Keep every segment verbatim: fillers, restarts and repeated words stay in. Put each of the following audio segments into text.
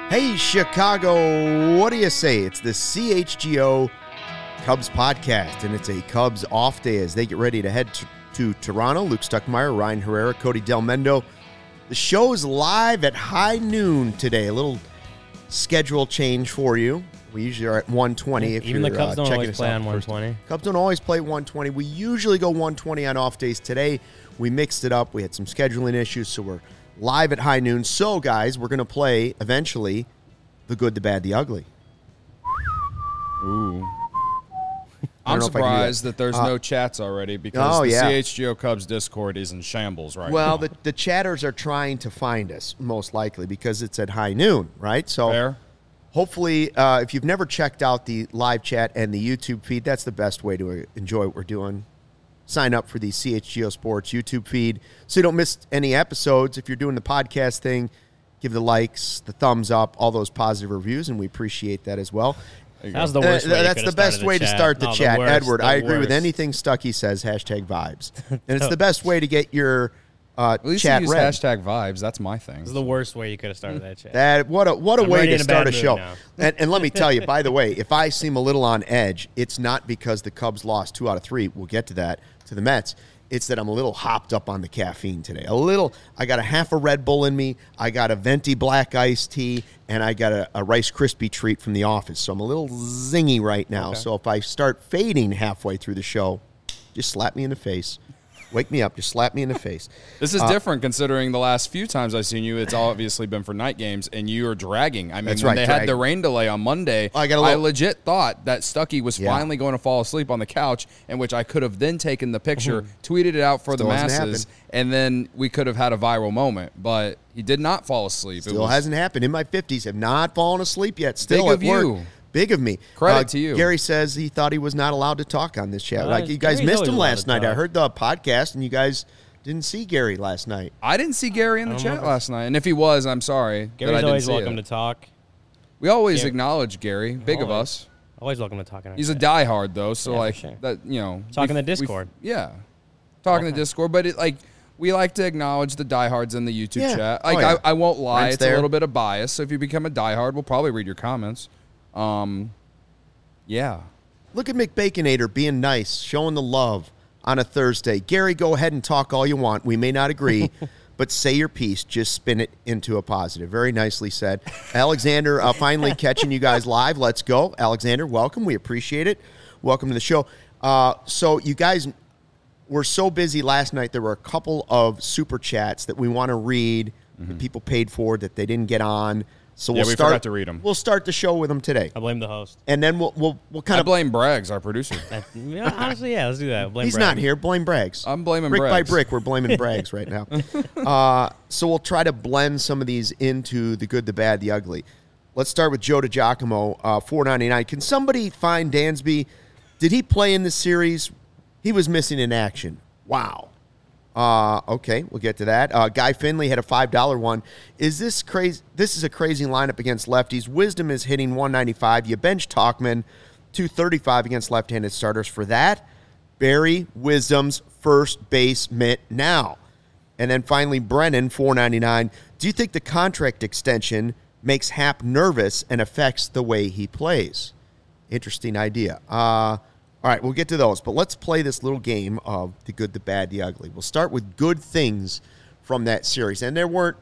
Hey, Chicago, what do you say? It's the C H G O Cubs podcast, and it's a Cubs off day as they get ready to head to, to Toronto. Luke Stuckmeyer, Ryan Herrera, Cody Del Mendo. The show is live at high noon today. A little schedule change for you. We usually are at one twenty. If Even you're, the Cubs uh, don't checking always us play out on one first. twenty. Cubs don't always play one twenty. We usually go one twenty on off days. Today, we mixed it up. We had some scheduling issues, so we're live at high noon. So, guys, we're going to play, eventually, The Good, the Bad, the Ugly. Ooh. I'm surprised that. that there's uh, no chats already because oh, the yeah. C H G O Cubs Discord is in shambles right well, now. Well, the, the chatters are trying to find us, most likely, because it's at high noon, right? So Fair. Hopefully, uh, if you've never checked out the live chat and the YouTube feed, that's the best way to enjoy what we're doing. Sign up for the C H G O Sports YouTube feed so you don't miss any episodes. If you're doing the podcast thing, give the likes, the thumbs up, all those positive reviews, and we appreciate that as well. That was the worst uh, way That's the best way the to start the no, chat. the worst, Edward, the I agree worst. with anything Stuckey says, hashtag vibes. And it's the best way to get your uh, At least chat you use read. hashtag vibes. That's my thing. This is the worst way you could have started that chat. That What a, what a I'm way already to in a start bad a mood show. now. And, and let me tell you, by the way, if I seem a little on edge, it's not because the Cubs lost two out of three. We'll get to that, to the Mets. It's that I'm a little hopped up on the caffeine today. A little. I got a half a Red Bull in me. I got a venti black iced tea, and I got a, a Rice Krispie treat from the office. So I'm a little zingy right now. Okay. So if I start fading halfway through the show, just slap me in the face. Wake me up. Just slap me in the face. This is uh, different considering the last few times I've seen you, it's obviously been for night games, and you are dragging. I mean, That's when right, they dragging. had the rain delay on Monday, I got a I little- legit thought that Stuckey was Yeah. finally going to fall asleep on the couch, in which I could have then taken the picture, tweeted it out for Still the hasn't masses, happened. and then we could have had a viral moment. But he did not fall asleep. It Still was- hasn't happened. In my fifties, have not fallen asleep yet. Still Big at of work. you. Big of me. Credit Uh, to you. Gary says he thought he was not allowed to talk on this chat. Uh, like you guys Gary's missed always him allowed last to night. I talk. heard the podcast, and you guys didn't see Gary last night. I didn't see Gary in the I don't know chat if it's- last night, and if he was, I'm sorry. that I Gary's didn't always see welcome it. to talk. We always Gary- acknowledge Gary, big of Always. us. Always welcome to talk. In our He's a chat. diehard though, so Yeah, for like sure. that, you know. Talk in we- the Discord. we- yeah, talk in the Okay. Discord, but it like we like to acknowledge the diehards in the YouTube Yeah. chat. Oh, Like yeah. I, I won't lie, Brent's it's there. a little bit of bias. So if you become a diehard, we'll probably read your comments. Um, yeah. Look at McBaconator being nice, showing the love on a Thursday. Gary, go ahead and talk all you want. We may not agree, but say your piece. Just spin it into a positive. Very nicely said. Alexander, uh, finally catching you guys live. Let's go. Alexander, welcome. We appreciate it. Welcome to the show. Uh, so you guys were so busy last night. There were a couple of super chats that we want to read that people paid for that they didn't get on. So Yeah, we'll we start, forgot to read 'em. We'll start the show with them today. I blame the host. And then we'll we'll, we'll kind I of blame Braggs, our producer. That- yeah, honestly, yeah, let's do that. Blame He's Brad. not here. Blame Braggs. I'm blaming brick by Braggs. brick. We're blaming Braggs right now. Uh, so we'll try to blend some of these into the good, the bad, the ugly. Let's start with Joe DiGiacomo, uh, four ninety-nine. Can somebody find Dansby? Did he play in the series? He was missing in action. Wow. Uh, okay, we'll get to that. Uh, Guy Finley had a five dollar one. Is this crazy? This is a crazy lineup against lefties. Wisdom is hitting one ninety-five. You bench Talkman, two thirty-five against left-handed starters. For that, Barry Wisdom's first base mitt now. And then finally, Brennan, four ninety-nine. Do you think the contract extension makes Happ nervous and affects the way he plays? Interesting idea. Uh, all right, we'll get to those. But let's play this little game of the good, the bad, the ugly. We'll start with good things from that series. And there weren't,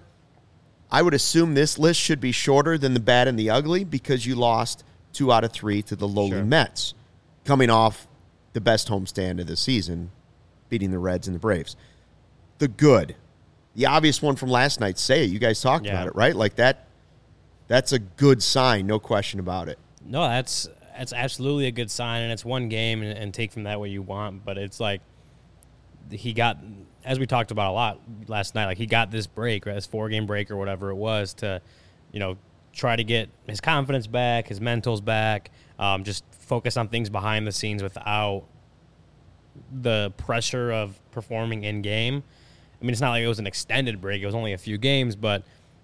I would assume this list should be shorter than the bad and the ugly because you lost two out of three to the lowly Sure. Mets, coming off the best homestand of the season, beating the Reds and the Braves. The good, the obvious one from last night, say it. You guys talked Yeah. about it, right? Like that, that's a good sign, no question about it. No, that's that's absolutely a good sign, and it's one game, and, and take from that what you want. But it's like he got, as we talked about a lot last night, like he got this break, right, this four-game break or whatever it was, to, you know, try to get his confidence back, his mentals back, um, just focus on things behind the scenes without the pressure of performing in game. I mean, it's not like it was an extended break; it was only a few games, but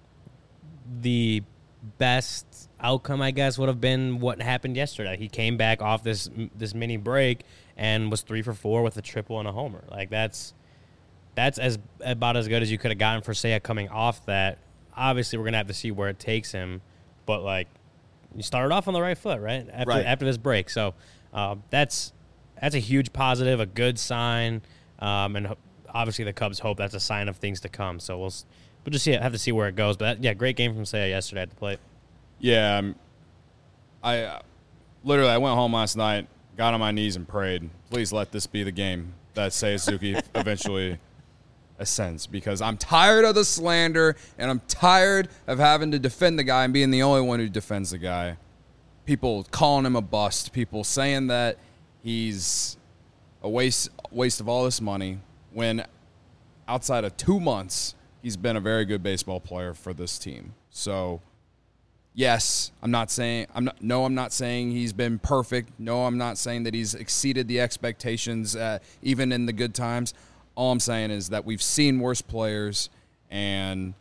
the best outcome, I guess, would have been what happened yesterday. He came back off this this mini break and was three for four with a triple and a homer. Like that's that's as about as good as you could have gotten for Seiya coming off that. Obviously, we're gonna have to see where it takes him but like you started off on the right foot, right? After Right. after this break, so uh, that's that's a huge positive, a good sign, um, and ho- obviously the Cubs hope that's a sign of things to come. So we'll s- we'll just see, have to see where it goes. But that, yeah, great game from Seiya yesterday at the plate. Yeah, um, I uh, literally I went home last night, got on my knees and prayed, please let this be the game that Seiya Suzuki eventually ascends, because I'm tired of the slander and I'm tired of having to defend the guy and being the only one who defends the guy. People calling him a bust, people saying that he's a waste waste of all this money, when outside of two months he's been a very good baseball player for this team. So yes, I'm not saying I'm not no I'm not saying he's been perfect. No, I'm not saying that he's exceeded the expectations uh, even in the good times. All I'm saying is that we've seen worse players, and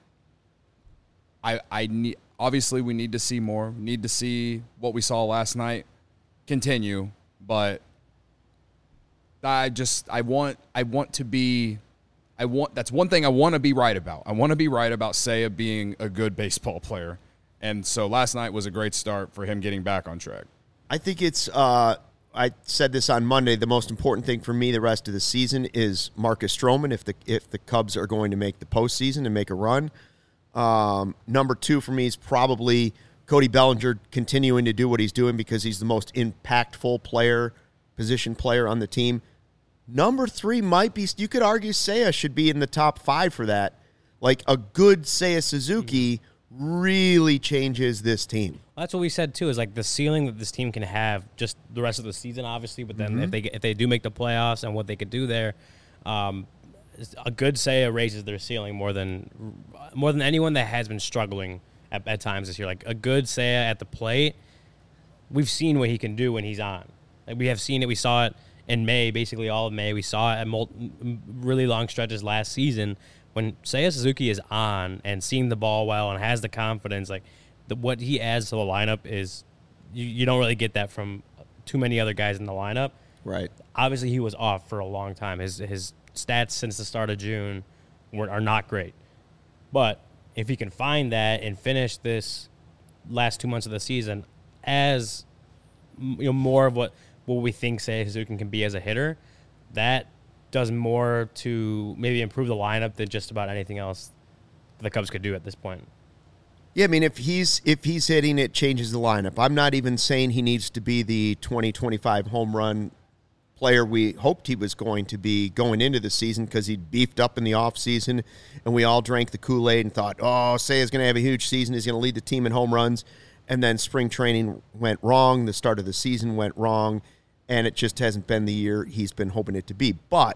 I I need obviously we need to see more. We need to see what we saw last night continue, but I just I want I want to be I want that's one thing I want to be right about. I want to be right about Seiya being a good baseball player. And so last night was a great start for him getting back on track. I think it's, uh, I said this on Monday, the most important thing for me the rest of the season is Marcus Stroman if the if the Cubs are going to make the postseason and make a run. Um, number two for me is probably Cody Bellinger continuing to do what he's doing because he's the most impactful player, position player on the team. Number three might be, you could argue Seiya should be in the top five for that. Like a good Seiya Suzuki really changes this team. Well, that's what we said too. Is like the ceiling that this team can have just the rest of the season, obviously. But then mm-hmm. if they if they do make the playoffs and what they could do there, um, a good Seiya raises their ceiling more than more than anyone that has been struggling at, at times this year. Like a good Seiya at the plate, we've seen what he can do when he's on. Like we have seen it. We saw it in May, basically all of May. We saw it at multi, really long stretches last season. When Seiya Suzuki is on and seeing the ball well and has the confidence, like the, what he adds to the lineup is you, you don't really get that from too many other guys in the lineup. Right. Obviously, he was off for a long time. His his stats since the start of June were, are not great. But if he can find that and finish this last two months of the season as you know more of what, what we think Seiya Suzuki can be as a hitter, that does more to maybe improve the lineup than just about anything else the Cubs could do at this point. Yeah, I mean, if he's if he's hitting, it changes the lineup. I'm not even saying he needs to be the twenty twenty-five home run player we hoped he was going to be going into the season because he beefed up in the offseason, and we all drank the Kool-Aid and thought, oh, Seiya's going to have a huge season. He's going to lead the team in home runs. And then spring training went wrong. The start of the season went wrong. And it just hasn't been the year he's been hoping it to be. But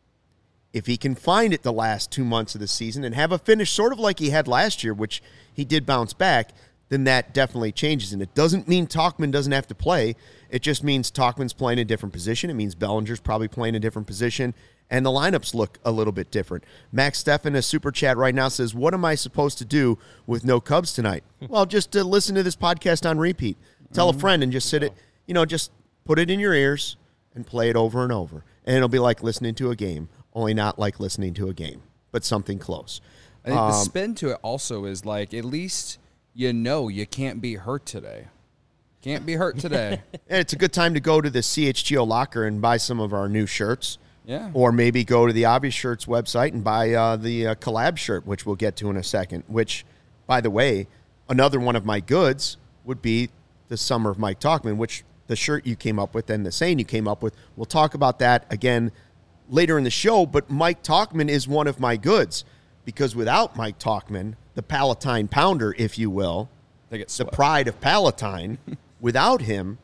if he can find it the last two months of the season and have a finish sort of like he had last year, which he did bounce back, then that definitely changes. And it doesn't mean Tauchman doesn't have to play. It just means Tauchman's playing a different position. It means Bellinger's probably playing a different position. And the lineups look a little bit different. Max Steffen, a super chat right now, says, what am I supposed to do with no Cubs tonight? Well, just to listen to this podcast on repeat. Tell mm-hmm. a friend and just sit it, you know, just put it in your ears and play it over and over. And it'll be like listening to a game, only not like listening to a game, but something close. I think um, the spin to it also is like, at least you know you can't be hurt today. Can't be hurt today. And it's a good time to go to the C H G O locker and buy some of our new shirts. Yeah. Or maybe go to the Obvious Shirts website and buy uh, the uh, collab shirt, which we'll get to in a second, which, by the way, another one of my goods would be the Summer of Mike Tauchman, which the shirt you came up with and the saying you came up with. We'll talk about that again later in the show, but Mike Tauchman is one of my goods because without Mike Tauchman, the Palatine Pounder, if you will, they get the pride of Palatine, without him,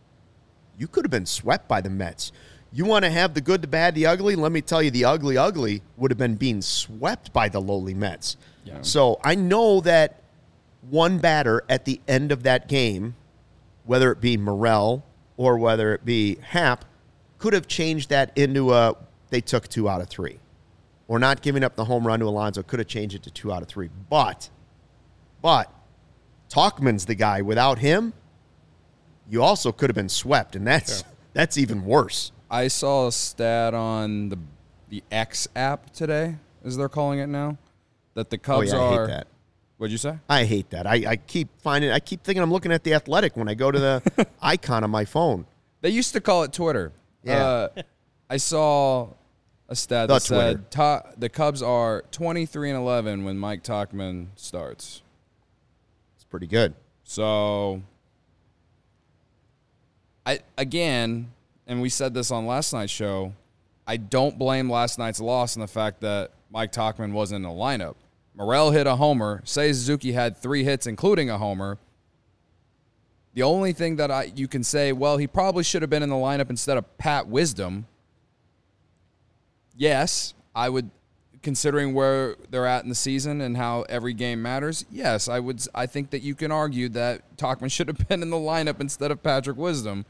you could have been swept by the Mets. You want to have the good, the bad, the ugly? Let me tell you, the ugly, ugly would have been being swept by the lowly Mets. Yeah. So I know that one batter at the end of that game, whether it be Morel or whether it be Happ, could have changed that into a, they took two out of three. Or not giving up the home run to Alonso could have changed it to two out of three. But, but, Tauchman's the guy. Without him, you also could have been swept, and that's yeah. that's even worse. I saw a stat on the the X app today, as they're calling it now, that the Cubs oh, yeah, I are hate that. What'd you say? I hate that. I, I keep finding. I keep thinking I'm looking at the Athletic when I go to the icon on my phone. They used to call it Twitter. Yeah. Uh, I saw a stat The that said to- the Cubs are twenty-three and eleven when Mike Tauchman starts. It's pretty good. So, I again, and we said this on last night's show, I don't blame last night's loss on the fact that Mike Tauchman wasn't in the lineup. Morel hit a homer. Seiya Suzuki had three hits, including a homer. The only thing that I you can say, well, he probably should have been in the lineup instead of Pat Wisdom. Yes, I would, considering where they're at in the season and how every game matters, yes, I would. I think that you can argue that Tauchman should have been in the lineup instead of Patrick Wisdom.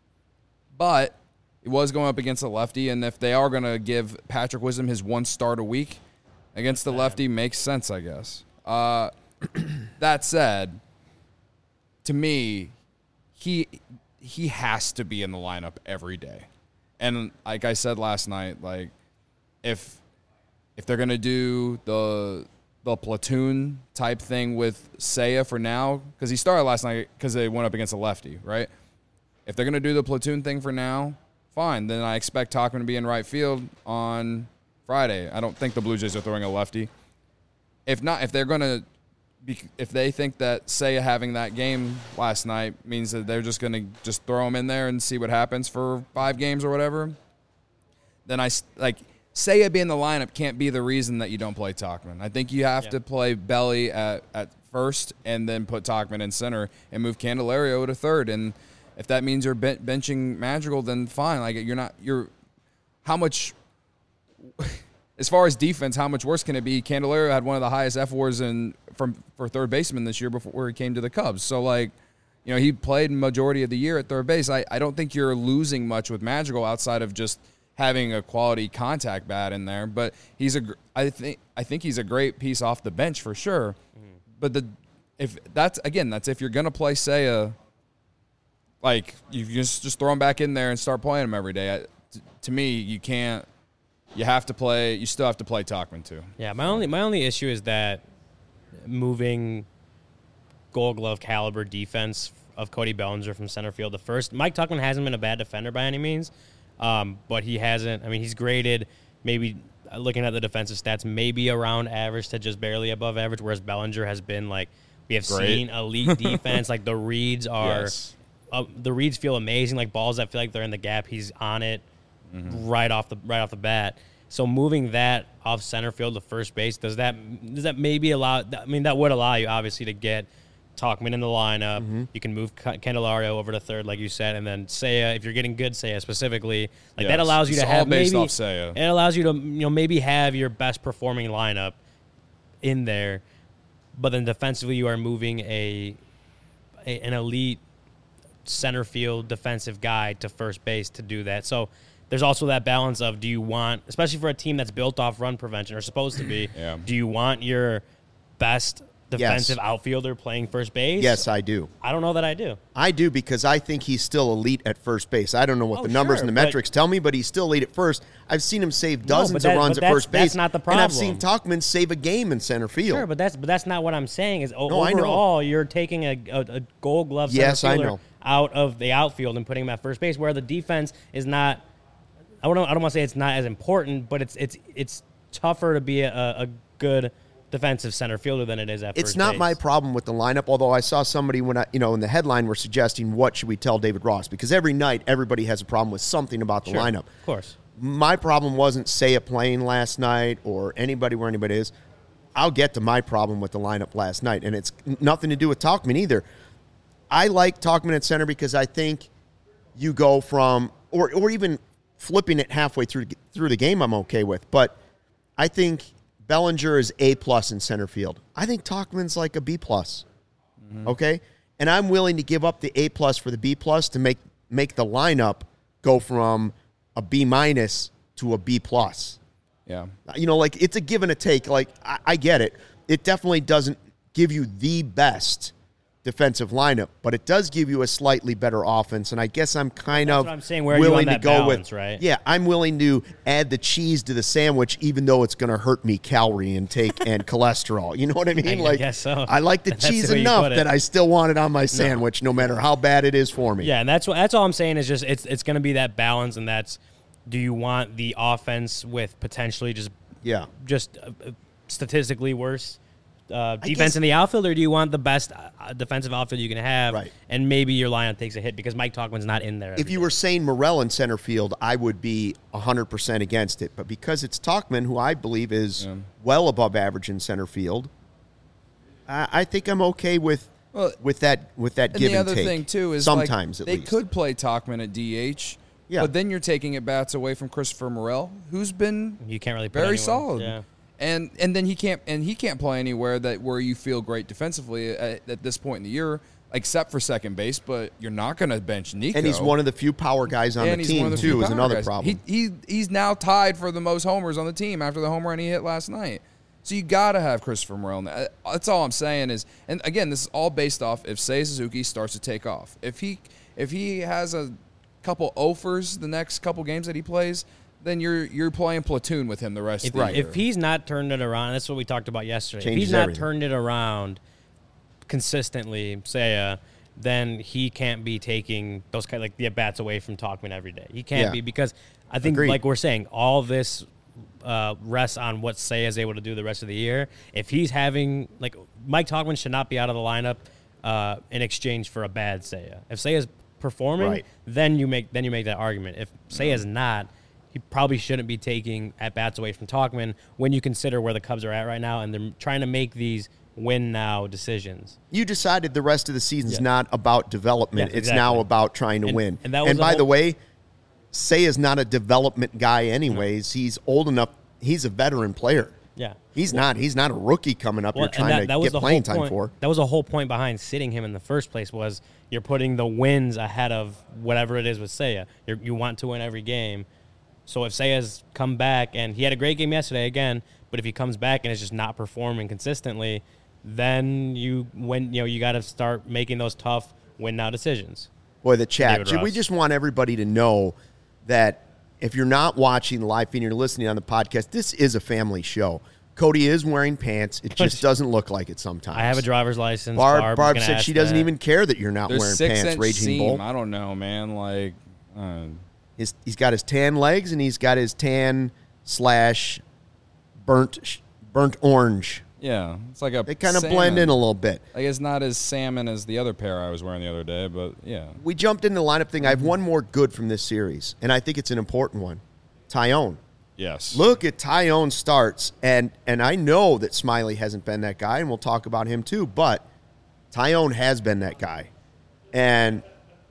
But it was going up against a lefty, and if they are going to give Patrick Wisdom his one start a week against the lefty, makes sense, I guess. Uh, that said, to me, he he has to be in the lineup every day. And like I said last night, like if if they're gonna do the the platoon type thing with Seiya for now, because he started last night because they went up against a lefty, right? If they're gonna do the platoon thing for now, fine. Then I expect Tauchman to be in right field on Friday. I don't think the Blue Jays are throwing a lefty. If not, if they're gonna Be, if they think that Seiya having that game last night means that they're just going to just throw him in there and see what happens for five games or whatever, then I like Seiya being in the lineup can't be the reason that you don't play Tauchman. I think you have yeah. to play Belly at, at first and then put Tauchman in center and move Candelario to third. And if that means you're ben- benching Madrigal, then fine. Like you're not you're how much. As far as defense, how much worse can it be? Candelario had one of the highest F W A Rs in from for third baseman this year before he came to the Cubs. So, like, you know, he played majority of the year at third base. I, I don't think you're losing much with Madrigal outside of just having a quality contact bat in there. But he's a I think I think he's a great piece off the bench for sure. Mm-hmm. But the if that's again that's if you're gonna play Seiya, like you just just throw him back in there and start playing him every day. I, t- to me, you can't. You have to play. You still have to play Tauchman too. Yeah, my only my only issue is that moving Gold Glove caliber defense of Cody Bellinger from center field. The first Mike Tauchman hasn't been a bad defender by any means, um, but he hasn't. I mean, he's graded maybe looking at the defensive stats, maybe around average to just barely above average. Whereas Bellinger has been like we have Great. seen elite defense. Like the reads are, Yes. uh, the reads feel amazing. Like balls that feel like they're in the gap, he's on it. Mm-hmm. Right off the right off the bat. So moving that off center field to first base, does that does that maybe allow? I mean, that would allow you obviously to get Tauchman in the lineup. Mm-hmm. You can move Candelario over to third, like you said, and then Seiya. If you're getting good Seiya specifically, like yes. that allows you it's to all have based maybe off Seiya. it allows you to you know maybe have your best performing lineup in there, but then defensively you are moving a, a an elite center field defensive guy to first base to do that. So. There's also that balance of do you want, especially for a team that's built off run prevention or supposed to be, yeah. do you want your best defensive Yes. outfielder playing first base? Yes, I do. I don't know that I do. I do because I think he's still elite at first base. I don't know what Oh, the numbers sure, and the but- metrics tell me, but he's still elite at first. I've seen him save No, dozens but that- of runs but at that's- first base. that's not the And I've seen problem. Tauchman save a game in center field. Sure, but that's but that's not what I'm saying. Is o- No, I know. overall you're taking a, a, a Gold Glove center Yes, I fielder know. out of the outfield and putting him at first base, where the defense is not. I don't. I don't want to say it's not as important, but it's it's it's tougher to be a, a good defensive center fielder than it is at It's first not base. my problem with the lineup, although I saw somebody when I, you know, in the headline were suggesting what should we tell David Ross, because every night everybody has a problem with something about the Sure, lineup. Of course. My problem wasn't Seiya playing last night or anybody where anybody is. I'll get to my problem with the lineup last night, and it's nothing to do with Tauchman either. I like Tauchman at center because I think you go from, or or even flipping it halfway through through the game, I'm okay with. But I think Bellinger is A plus in center field. I think Tauchman's like a B plus. Mm-hmm. Okay, and I'm willing to give up the A plus for the B plus to make make the lineup go from a B minus to a B plus. Yeah. You know, like it's a give and a take. Like I, I get it. It definitely doesn't give you the best defensive lineup, but it does give you a slightly better offense. And I guess I'm kind That's of what I'm saying. Where are you willing on to that go balance, with, right? yeah, I'm willing to add the cheese to the sandwich, even though it's going to hurt me calorie intake and cholesterol. You know what I mean? I like, guess so. I like the That's the cheese way you enough put it. that I still want it on my sandwich, no, no matter how bad it is for me. Yeah, and that's what that's all I'm saying is just it's it's going to be that balance, and that's do you want the offense with potentially just Yeah. just uh, statistically worse uh, defense guess- in the outfield, or do you want the best uh, defensive outfield you can have, Right. and maybe your lineup takes a hit because Mike Tauchman's not in there? If every you day. were saying Morel in center field, I would be one hundred percent against it. But because it's Tauchman, who I believe is Yeah. well above average in center field, I, I think I'm okay with Well, with that with that And give the and other take. thing too is sometimes like, at they least could play Tauchman at D H, Yeah. but then you're taking at bats away from Christopher Morel, who's been you can't really put very anyone- solid. Yeah. And and then he can't and he can't play anywhere that where you feel great defensively at, at this point in the year, except for second base. But you're not going to bench Nico. and he's one of the few power guys on And the he's one team of the few too. Is power another guys. problem. He, he he's now tied for the most homers on the team after the home run he hit last night. So you got to have Christopher Morel. Uh, That's all I'm saying is, and again, this is all based off if Seiya Suzuki starts to take off. If he if he has a couple offers the next couple games that he plays, then you're you're playing platoon with him the rest If, of the year. if he's not turned it around, that's what we talked about yesterday. Changes if he's not everything. turned it around consistently, say, uh, then he can't be taking those kind like the at bats away from Tauchman every day. He can't Yeah. be because I think, Agreed. like we're saying, all this uh, rests on what Seiya is able to do the rest of the year. If he's having like Mike Tauchman should not be out of the lineup uh, in exchange for a bad Seiya. If Seiya's performing, Right. then you make then you make that argument. If Seiya's not, he probably shouldn't be taking at bats away from Tauchman when you consider where the Cubs are at right now, and they're trying to make these win now decisions. You decided the rest of the season's Yeah. not about development. Yeah, it's exactly. now about trying to And- win. and that was the by whole- the way, Say is not a development guy anyways. He's old enough. He's a veteran player. Yeah. He's not. He's not a rookie coming up Well, here and trying that, to that was get the playing whole time point, for. That was the whole point behind sitting him in the first place was you're putting the wins ahead of whatever it is with Seiya. You're, you want to win every game. So if Seiya's come back, and he had a great game yesterday again, but if he comes back and is just not performing consistently, then you when you know you got to start making those tough win now decisions. Boy, the chat. David We Ross. just want everybody to know that if you're not watching the live feed and you're listening on the podcast, this is a family show. Cody is wearing pants. It just doesn't look like it sometimes. I have a driver's license. Barb, Barb's Barb gonna said ask she doesn't that. even care that you're not There's wearing six pants, inch Raging seam. Bull. I don't know, man. Like, uh, His, he's got his tan legs and he's got his tan slash burnt sh- burnt orange. yeah, it's like a. They kind of salmon. blend in a little bit. Like it's not as salmon as the other pair I was wearing the other day, but yeah. We jumped into the lineup thing. I have one more good from this series, and I think it's an important one. Tyone. Yes. Look at Tyone starts, and and I know that Smiley hasn't been that guy, and we'll talk about him too, but Tyone has been that guy. And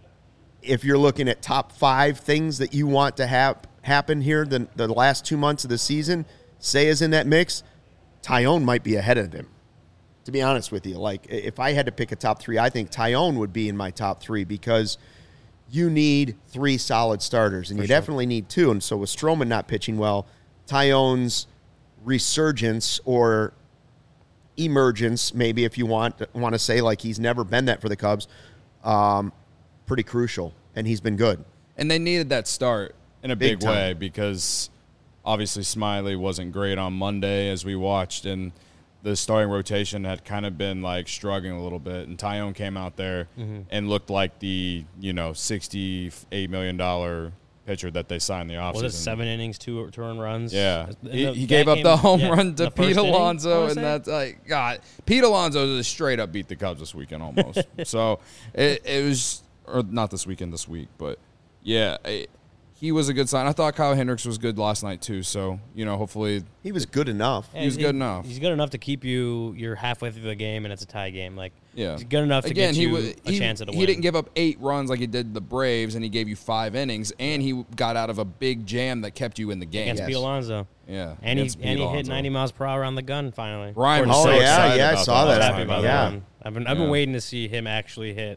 if you're looking at top five things that you want to have happen here the, the last two months of the season, Seiya's in that mix, Tyone might be ahead of him. To be honest with you, like if I had to pick a top three, I think Tyone would be in my top three because you need three solid starters, and For you sure. definitely need two. And so with Stroman not pitching well, Tyone's resurgence or emergence, maybe if you want want to say, like he's never been that for the Cubs, um, pretty crucial, and he's been good. and they needed that start. in a Big big, way time. because obviously Smiley wasn't great on Monday as we watched, and the starting rotation had kind of been like struggling a little bit. And Tyone came out there Mm-hmm. and looked like the you know sixty-eight million dollar pitcher that they signed the offseason. Was it seven innings, two two earned runs? Yeah. In He, the- he that gave up game- the home yeah, run to the first Pete inning, I Alonso, wanna and say? that's like God. Pete Alonso just straight up beat the Cubs this weekend almost. so it, it was, or not this weekend, this week, but yeah, it, he was a good sign. I thought Kyle Hendricks was good last night too. So you know, hopefully, He was good enough. Yeah, He was good enough. He's good enough to keep you. You're halfway through the game, and it's a tie game. Like, yeah, he's good enough to Again, get he you wa- a he, chance at a he win. didn't give up eight runs like he did the Braves, and he gave you five innings, and he got out of a big jam that kept you in the game. against Yes. Pete Alonso. Yeah, And he, against Pete and he hit Alonso. ninety miles per hour on the gun finally. Brian According was Oh, to so yeah, excited yeah, I about saw that. that. happy about Yeah. that one. I've been I've been Yeah. waiting to see him actually hit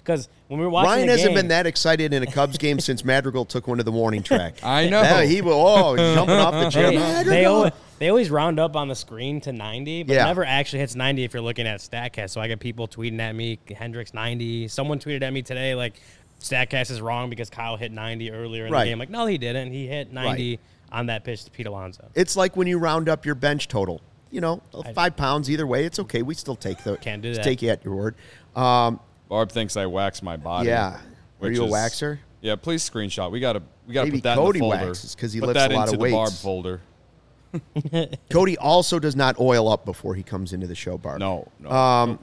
because when we were watching Ryan the hasn't game, been that excited in a Cubs game since Madrigal took one to the morning track. I know. Yeah, he will. Oh, jumping off the chair. They, Madrigal. they, always, they always round up on the screen to ninety, but Yeah. it never actually hits ninety if you're looking at StatCast. So I get people tweeting at me, Hendricks ninety. Someone tweeted at me today, like, StatCast is wrong because Kyle hit ninety earlier in Right. the game. Like, no, he didn't. He hit ninety on that pitch to Pete Alonso. It's like when you round up your bench total. You know, five pounds either way. It's okay. We still take the. Can't do that. Take you at your word. Um, Barb thinks I wax my body. yeah. Are which you a is- waxer? Yeah, please screenshot. We gotta we gotta Maybe put that Cody in the folder. waxes 'cause he put lifts that a lot into of the Barb weights. folder. Cody also does not oil up before he comes into the show, Barb. No, no. Um,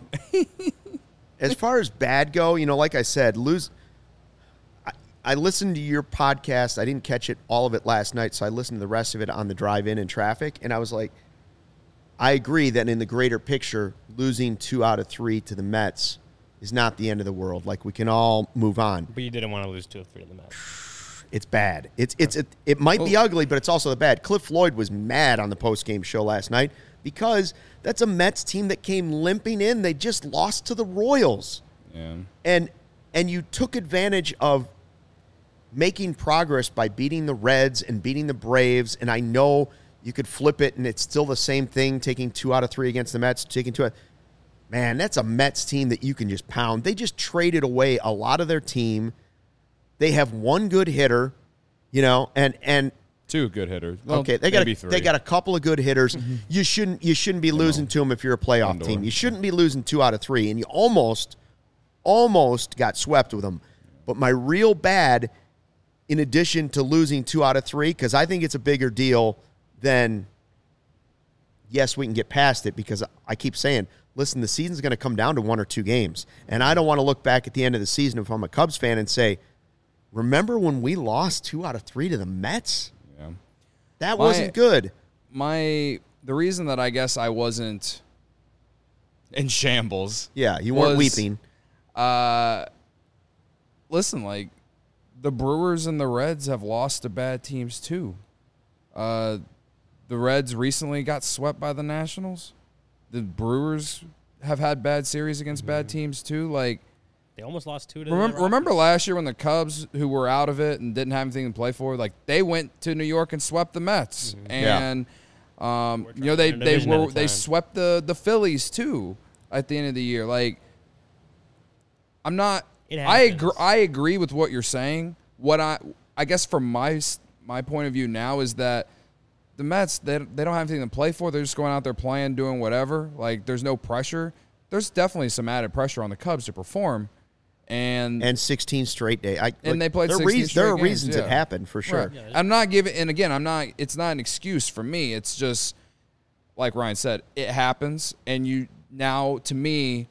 as far as bad go, you know, like I said, lose. I, I listened to your podcast. I didn't catch it all of it last night, so I listened to the rest of it on the drive in in traffic, and I was like, I agree that in the greater picture, losing two out of three to the Mets is not the end of the world. Like, we can all move on. But you didn't want to lose two or three of the Mets. It's bad. It's it's it, it might be ugly, but it's also the bad. Cliff Floyd was mad on the post game show last night because that's a Mets team that came limping in. They just lost to the Royals, yeah. and and you took advantage of making progress by beating the Reds and beating the Braves. And I know you could flip it, and it's still the same thing. Taking two out of three against the Mets, taking two. Out, man, that's a Mets team that you can just pound. They just traded away a lot of their team. They have one good hitter, you know, and and Two good hitters. Well, okay, they got maybe a, three. they got a couple of good hitters. You shouldn't you shouldn't be losing to them if you're a playoff Lindor. team. You shouldn't be losing two out of three, and you almost almost got swept with them. But my real bad, in addition to losing two out of three, because I think it's a bigger deal than. Yes, we can get past it because I keep saying, listen, the season's going to come down to one or two games, and I don't want to look back at the end of the season if I'm a Cubs fan and say, remember when we lost two out of three to the Mets? Yeah. That My- wasn't good. My the reason that I guess I wasn't In shambles. Yeah, you weren't was- weeping. uh listen, like the Brewers and the Reds have lost to bad teams too. Uh the Reds recently got swept by the Nationals. The Brewers have had bad series against bad teams too. Like They almost lost two to remember, the remember Rockies. last year when the Cubs, who were out of it and didn't have anything to play for, like they went to New York and swept the Mets, Yeah. and um, We're you know they trying to they division at were a they time. swept the the Phillies too at the end of the year. Like I'm not. It I agree. happens. I agree with what you're saying. What I I guess from my s- my point of view now is that the Mets they they don't have anything to play for. They're just going out there playing, doing whatever. Like there's no pressure. There's definitely some added pressure on the Cubs to perform. And And sixteen straight day. I, And like, they played there are sixteen reas- There are straight games, reasons yeah. it happened, for sure. Right. I'm not giving, and again, I'm not. It's not an excuse for me. It's just like Ryan said, it happens, and you now to me,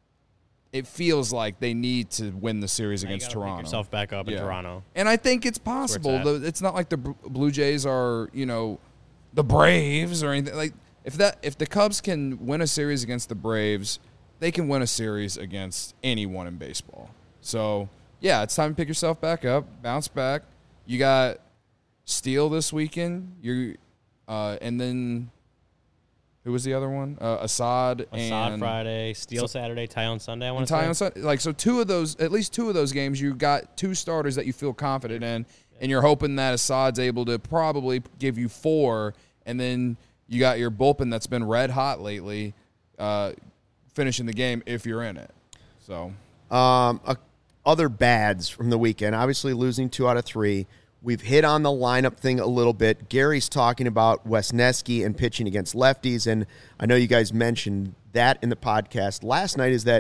it feels like they need to win the series Now you against gotta pick Toronto. yourself back up in Yeah. Toronto. And I think it's where it's possible. at. The- It's not like the Bl- Blue Jays are, you know, the Braves or anything. Like if that if the Cubs can win a series against the Braves, they can win a series against anyone in baseball. So yeah, it's time to pick yourself back up, bounce back. You got Steele this weekend. You, uh, and then who was the other one? Uh, Assad, Assad and Friday, Steel Saturday, Ty on Sunday. I want and to Ty say. on Sunday. Like so, two of those, at least two of those games, you got two starters that you feel confident in, and you're hoping that Assad's able to probably give you four, and then you got your bullpen that's been red hot lately, uh, finishing the game if you're in it. So Um, a, other bads from the weekend. Obviously, losing two out of three. We've hit on the lineup thing a little bit. Gary's talking about Wesneski and pitching against lefties, and I know you guys mentioned that in the podcast last night. Is that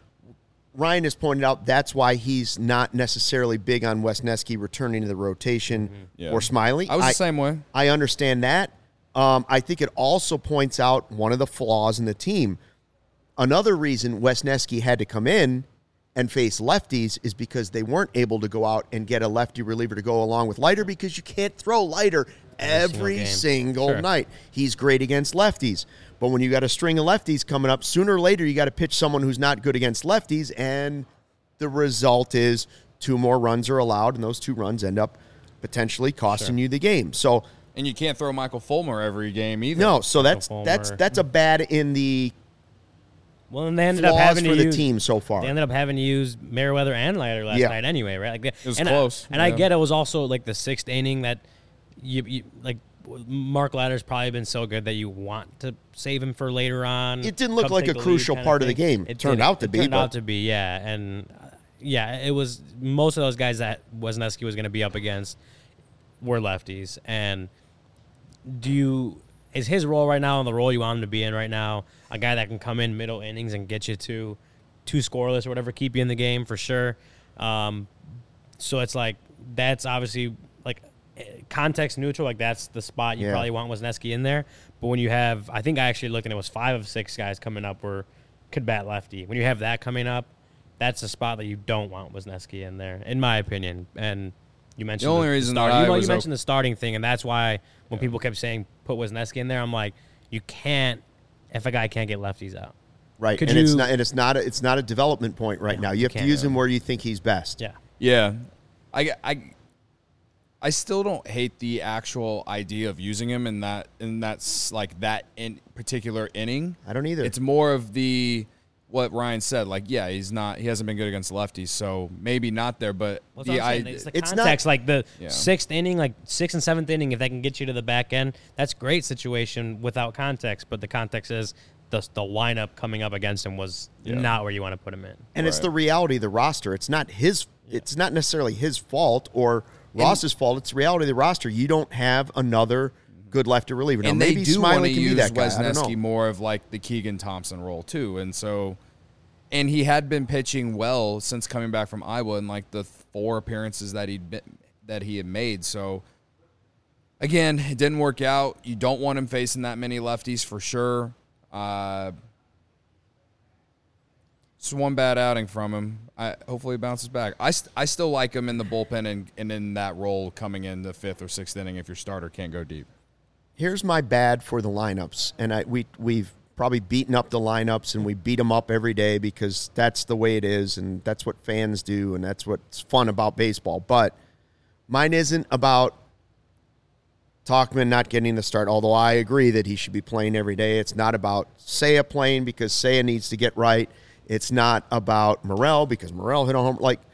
Ryan has pointed out that's why he's not necessarily big on Wesneski returning to the rotation Yeah. or Smiley. I was the same way. I understand that. Um, I think it also points out one of the flaws in the team. Another reason Wesneski had to come in and face lefties is because they weren't able to go out and get a lefty reliever to go along with Leiter because you can't throw Leiter every game. single Sure. night. He's great against lefties. But when you got a string of lefties coming up, sooner or later you got to pitch someone who's not good against lefties, and the result is two more runs are allowed, and those two runs end up potentially costing you the game. So And you can't throw Michael Fulmer every game either. no, so that's Fulmer. that's that's a bad in the Well, and they ended up flaws having for to the use, team so far. They ended up having to use Merriweather and Leiter last Yeah. night anyway, right? Like, it was and close. I, and I yeah. get it was also like the sixth inning that you, you like. Mark Leiter's probably been so good that you want to save him for later on. It didn't look Cubs like take a the crucial lead part of kinda the thing. game. It turned did- out to it be, Turned but- out to be, yeah, and uh, yeah, it was most of those guys that Wisniewski was going to be up against were lefties. And do you is his role right now in the role you want him to be in right now? A guy that can come in middle innings and get you to two scoreless or whatever, keep you in the game for sure. Um, so it's like that's obviously like context neutral. Like that's the spot you Yeah. probably want Wisniewski in there. But when you have, I think I actually looked and it was five of six guys coming up were could bat lefty. When you have that coming up, that's a spot that you don't want Wisniewski in there, in my opinion. And you mentioned The only reason start, that I you, know, was you mentioned op- the starting thing, and that's why when people kept saying put Wisniewski in there, I'm like, you can't if a guy can't get lefties out. Right, Could and it's you- not and it's not a, it's not a development point right No, now. You you have to can't. use him where you think he's best. Yeah. Yeah, I, I, I still don't hate the actual idea of using him in that in that's like that in particular inning. I don't either. It's more of the what Ryan said. Like, yeah, he's not. He hasn't been good against lefties, so maybe not there. But Well, the that's what I'm I, saying. It's the it's not- context, like the Yeah. sixth inning, like sixth and seventh inning, if they can get you to the back end, that's great situation without context. But the context is the the lineup coming up against him was Yeah. not where you want to put him in. and it's Right. the reality of the roster. It's not his. It's not necessarily his fault or Ross's fault. It's the reality of the roster. You don't have another good lefty reliever. Now, and maybe they do want to Smiley can be use that guy. I don't Wisniewski know. more of like the Keegan Thompson role too, and so, and he had been pitching well since coming back from Iowa in like the four appearances that he'd been, that he had made. So, again, it didn't work out. You don't want him facing that many lefties for sure. Uh, it's one bad outing from him. I hopefully he bounces back. I, st- I still like him in the bullpen and, and in that role coming in the fifth or sixth inning if your starter can't go deep. Here's my bad for the lineups, and I we we've probably beaten up the lineups, and we beat them up every day because that's the way it is, and that's what fans do, and that's what's fun about baseball. But mine isn't about Tauchman not getting the start, although I agree that he should be playing every day. It's not about Seiya playing because Seiya needs to get right. It's not about Morel because Morel hit a home. Like,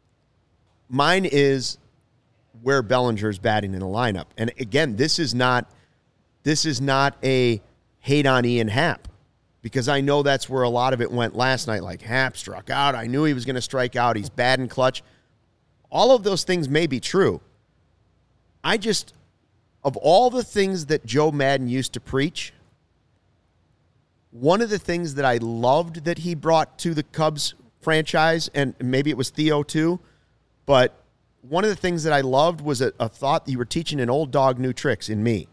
mine is where Bellinger's batting in the lineup. And again, this is not this is not a hate on Ian Happ, because I know that's where a lot of it went last night. Like, Happ struck out. I knew he was going to strike out. He's bad in clutch. All of those things may be true. I just, of all the things that Joe Madden used to preach, one of the things that I loved that he brought to the Cubs franchise, and maybe it was Theo too, but one of the things that I loved was a, a thought that you were teaching an old dog new tricks in me.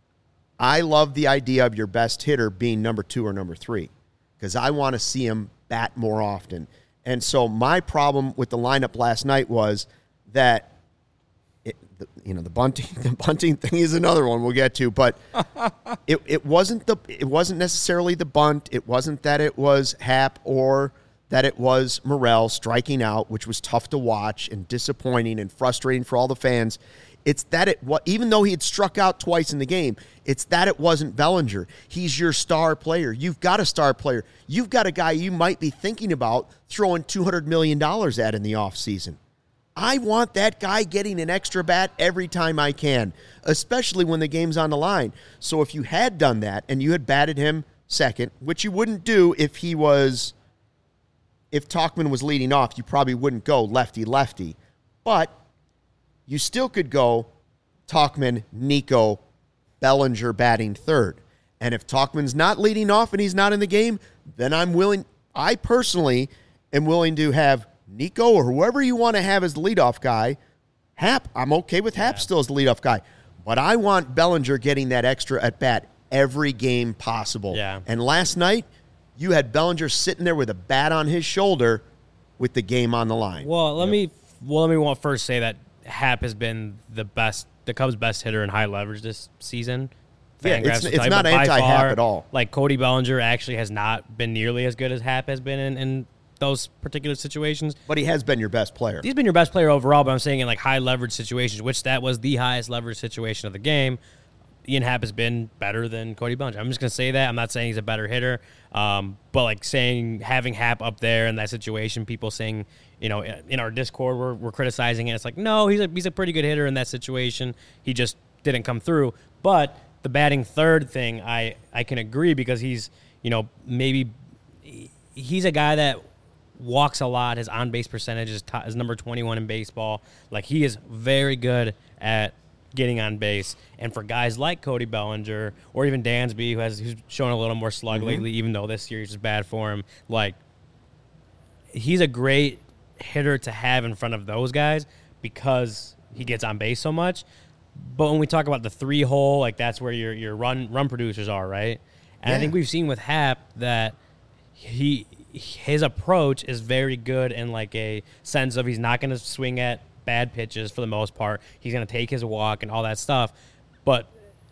I love the idea of your best hitter being number two or number three because I want to see him bat more often. And so my problem with the lineup last night was that it, the, you know, the bunting, the bunting thing is another one we'll get to, but it, it wasn't the, it wasn't necessarily the bunt. It wasn't that it was Happ or that it was Morel striking out, which was tough to watch and disappointing and frustrating for all the fans. It's that it, even though he had struck out twice in the game, it's that it wasn't Bellinger. He's your star player. You've got a star player. You've got a guy you might be thinking about throwing two hundred million dollars at in the offseason. I want that guy getting an extra bat every time I can, especially when the game's on the line. So if you had done that and you had batted him second, which you wouldn't do if he was, if Tauchman was leading off, you probably wouldn't go lefty-lefty. But you still could go Tauchman, Nico, Bellinger batting third. And if Tauchman's not leading off and he's not in the game, then I'm willing, I personally am willing to have Nico or whoever you want to have as the leadoff guy. Happ, I'm okay with Happ Yeah. still as the leadoff guy. But I want Bellinger getting that extra at bat every game possible. Yeah. And last night, you had Bellinger sitting there with a bat on his shoulder with the game on the line. Well, let me well let me want first say that Happ has been the best, the Cubs' best hitter in high leverage this season. Yeah, Fangraphs it's- will it's tell you, not but by anti-Happ far, at all. Like Cody Bellinger actually has not been nearly as good as Happ has been in, in those particular situations. But he has been your best player. He's been your best player overall, but I'm saying in like high leverage situations, which that was the highest leverage situation of the game. Ian Happ has been better than Cody Bellinger. I'm just going to say that. I'm not saying he's a better hitter, um, but like saying having Happ up there in that situation, people saying, you know, in our Discord we're, we're criticizing it. It's like, no, he's a, he's a pretty good hitter in that situation. He just didn't come through. But the batting third thing, I, I can agree because he's, you know, maybe he's a guy that walks a lot. His on-base percentage is, top, is number twenty-one in baseball. Like, he is very good at getting on base. And for guys like Cody Bellinger or even Dansby, who has who's shown a little more slug mm-hmm. lately, even though this series is bad for him, like, he's a great hitter to have in front of those guys because he gets on base so much. But when we talk about the three hole, like, that's where your your run run producers are, right? And yeah. I think we've seen with Happ that he his approach is very good in like a sense of he's not going to swing at bad pitches for the most part. He's going to take his walk and all that stuff. But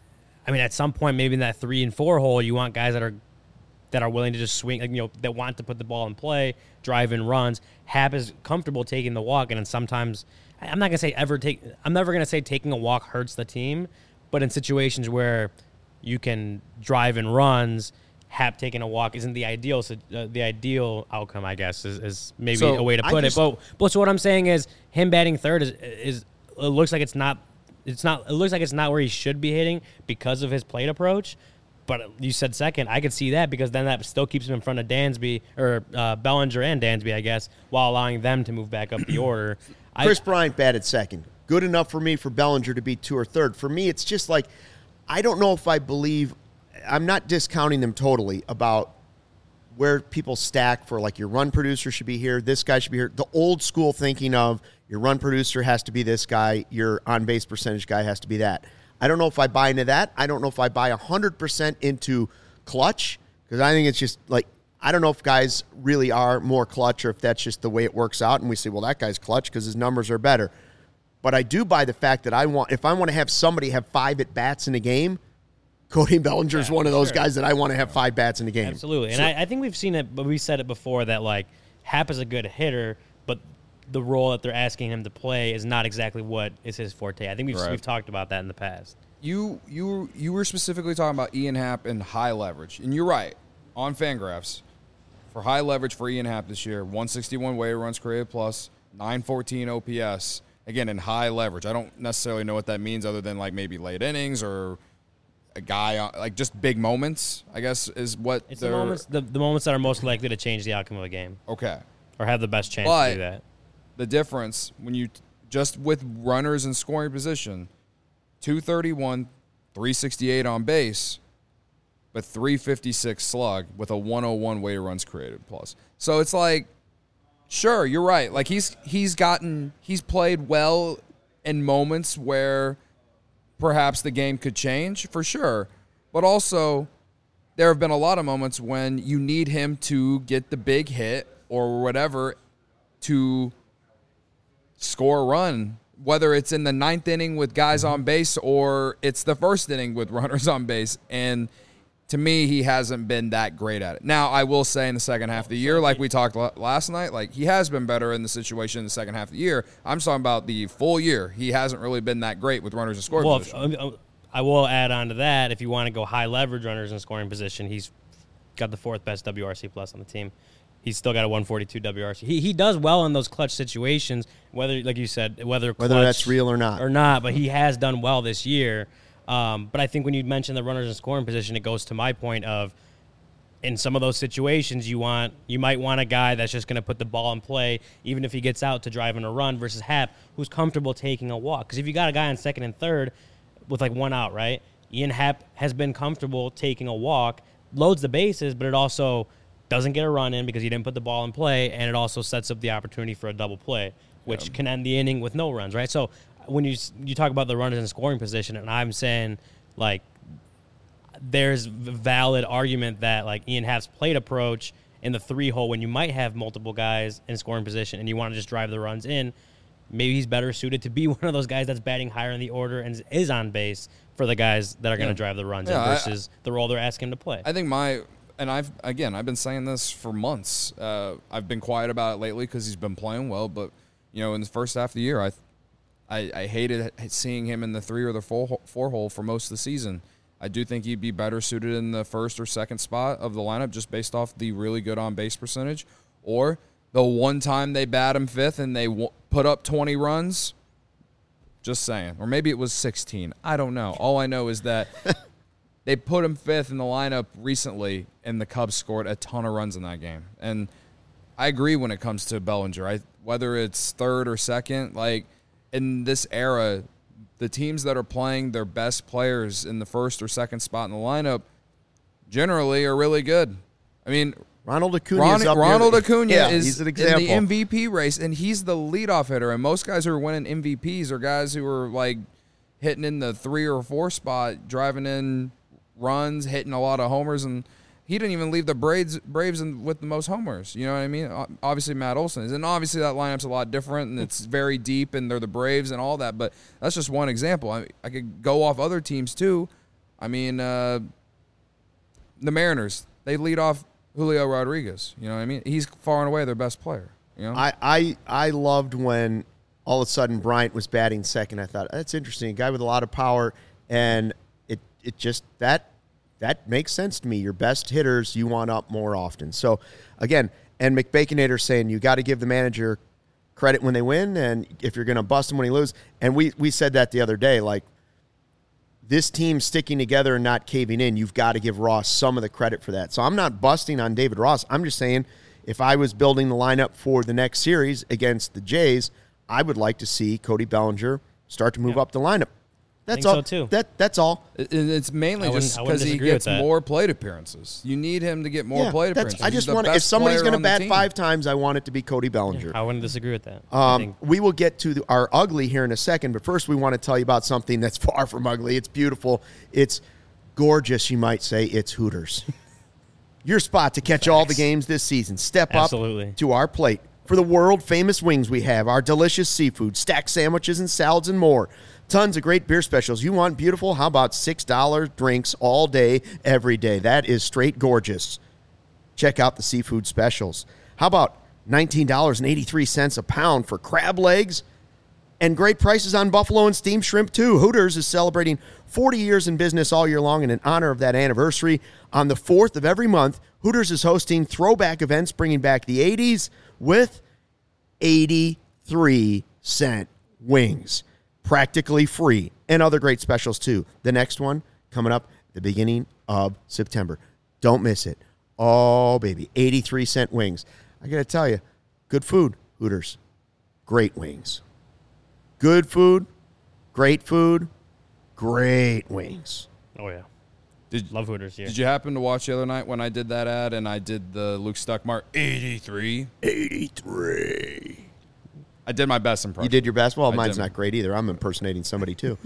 I mean, at some point, maybe in that three and four hole, you want guys that are that are willing to just swing, like, you know, that want to put the ball in play, drive in runs. Happ is comfortable taking the walk, and then sometimes I'm not gonna say ever take. I'm never gonna say taking a walk hurts the team, but in situations where you can drive in runs, Happ taking a walk isn't the ideal. So, uh, the ideal outcome, I guess, is, is maybe so a way to put just, it. But but so what I'm saying is him batting third is is it looks like it's not. It's not. It looks like it's not where he should be hitting because of his plate approach. But you said second. I could see that because then that still keeps him in front of Dansby or uh, Bellinger and Dansby, I guess, while allowing them to move back up the order. Chris I, Bryant batted second. Good enough for me for Bellinger to be two or third. For me, it's just like I don't know if I believe. I'm not discounting them totally about where people stack for, like, your run producer should be here, this guy should be here. The old school thinking of your run producer has to be this guy, your on-base percentage guy has to be that. I don't know if I buy into that. I don't know if I buy one hundred percent into clutch because I think it's just, like, I don't know if guys really are more clutch or if that's just the way it works out and we say, well, that guy's clutch because his numbers are better. But I do buy the fact that I want, if I want to have somebody have five at-bats in a game, Cody Bellinger is yeah, one of those sure. guys that I want to have five bats in the game. Absolutely. And so, I, I think we've seen it, but we said it before that, like, Happ is a good hitter, but the role that they're asking him to play is not exactly what is his forte. I think we've, right. we've talked about that in the past. You you you were specifically talking about Ian Happ and high leverage. And you're right. On Fangraphs, for high leverage for Ian Happ this year, one sixty-one weighted runs created plus, nine fourteen O P S. Again, in high leverage. I don't necessarily know what that means other than, like, maybe late innings or a guy, like, just big moments, I guess, is what it's the moments, the, the moments that are most likely to change the outcome of a game. Okay. Or have the best chance but to do that. The difference, when you, just with runners in scoring position, two thirty-one, three sixty-eight on base, but three fifty-six slug with a one oh one weighted runs created plus. So it's like, sure, you're right. Like, he's he's gotten, he's played well in moments where perhaps the game could change, for sure. But also, there have been a lot of moments when you need him to get the big hit or whatever to score a run, whether it's in the ninth inning with guys on base or it's the first inning with runners on base. And to me, he hasn't been that great at it. Now, I will say in the second half of the year, like we talked last night, like, he has been better in the situation in the second half of the year. I'm talking about the full year. He hasn't really been that great with runners in scoring well, position. If, I will add on to that, if you want to go high leverage runners in scoring position, he's got the fourth best W R C plus on the team. He's still got a one forty-two W R C. He he does well in those clutch situations, whether, like you said, whether clutch whether that's real or not. Or not, but he has done well this year. Um, but I think when you mention the runners in scoring position, it goes to my point of, in some of those situations, you want you might want a guy that's just going to put the ball in play, even if he gets out to drive in a run, versus Happ, who's comfortable taking a walk. Because if you got a guy on second and third with, like, one out, right? Ian Happ has been comfortable taking a walk, loads the bases, but it also doesn't get a run in because he didn't put the ball in play, and it also sets up the opportunity for a double play, which yeah. can end the inning with no runs, right? So when you you talk about the runners in scoring position, and I'm saying, like, there's valid argument that, like, Ian Happ's plate approach in the three hole, when you might have multiple guys in scoring position and you want to just drive the runs in, maybe he's better suited to be one of those guys that's batting higher in the order and is on base for the guys that are going to yeah. drive the runs yeah, in versus I, the role they're asking him to play. I think my and I've again I've been saying this for months. Uh, I've been quiet about it lately because he's been playing well, but, you know, in the first half of the year, I. I, I hated seeing him in the three or the four, four hole for most of the season. I do think he'd be better suited in the first or second spot of the lineup just based off the really good on-base percentage. Or the one time they bat him fifth and they w- put up twenty runs, just saying. Or maybe it was sixteen. I don't know. All I know is that they put him fifth in the lineup recently, and the Cubs scored a ton of runs in that game. And I agree when it comes to Bellinger. I, whether it's third or second, like in this era, the teams that are playing their best players in the first or second spot in the lineup generally are really good. I mean, Ronald Acuna Ron, is up Ronald near, Acuna yeah, is he's an in example. the M V P race, and he's the leadoff hitter. And most guys who are winning M V Ps are guys who are like hitting in the three or four spot, driving in runs, hitting a lot of homers, and he didn't even leave the Braves, Braves in, with the most homers. You know what I mean? Obviously, Matt Olson is. And obviously, that lineup's a lot different, and it's very deep, and they're the Braves and all that. But that's just one example. I, I could go off other teams, too. I mean, uh, the Mariners, they lead off Julio Rodriguez. You know what I mean? He's far and away their best player. You know? I, I, I loved when all of a sudden Bryant was batting second. I thought, that's interesting. A guy with a lot of power, and it, it just – that – that makes sense to me. Your best hitters you want up more often. So, again, and McBaconator saying you got to give the manager credit when they win, and if you're going to bust him when he loses. And we, we said that the other day, like, this team sticking together and not caving in, you've got to give Ross some of the credit for that. So I'm not busting on David Ross. I'm just saying if I was building the lineup for the next series against the Jays, I would like to see Cody Bellinger start to move Yep. up the lineup. That's think all. so, too. That that's all. It- It's mainly I wouldn't- just I wouldn't because he disagree with gets that. more plate appearances. You need him to get more Yeah, plate that's- appearances. I He's just the want to. If best somebody's player going to on the bat team. five times, I want it to be Cody Bellinger. I wouldn't disagree with that. I Um, think we will get to the, our ugly here in a second, but first we want to tell you about something that's far from ugly. It's beautiful. It's gorgeous, you might say. It's Hooters. Your spot to catch all the games this season. Step Absolutely. up to our plate for the world-famous wings we have, our delicious seafood, stacked sandwiches and salads and more. Tons of great beer specials. You want beautiful? How about six dollar drinks all day, every day? That is straight gorgeous. Check out the seafood specials. How about nineteen dollars and eighty-three cents a pound for crab legs? And great prices on buffalo and steamed shrimp, too. Hooters is celebrating forty years in business all year long, and in honor of that anniversary, on the fourth of every month, Hooters is hosting throwback events bringing back the eighties with eighty-three cent wings. Practically free, and other great specials, too. The next one coming up the beginning of September. Don't miss it. Oh, baby, eighty-three cent wings. I got to tell you, good food, Hooters. Great wings. Good food, great food, great wings. Oh yeah, Did, love Hooters. Yeah. did you happen to watch the other night when I did that ad and I did the Luke Stuckmart eighty-three? eighty-three. I did my best impression. You did your best? Well, I mine's did. not great either. I'm impersonating somebody, too.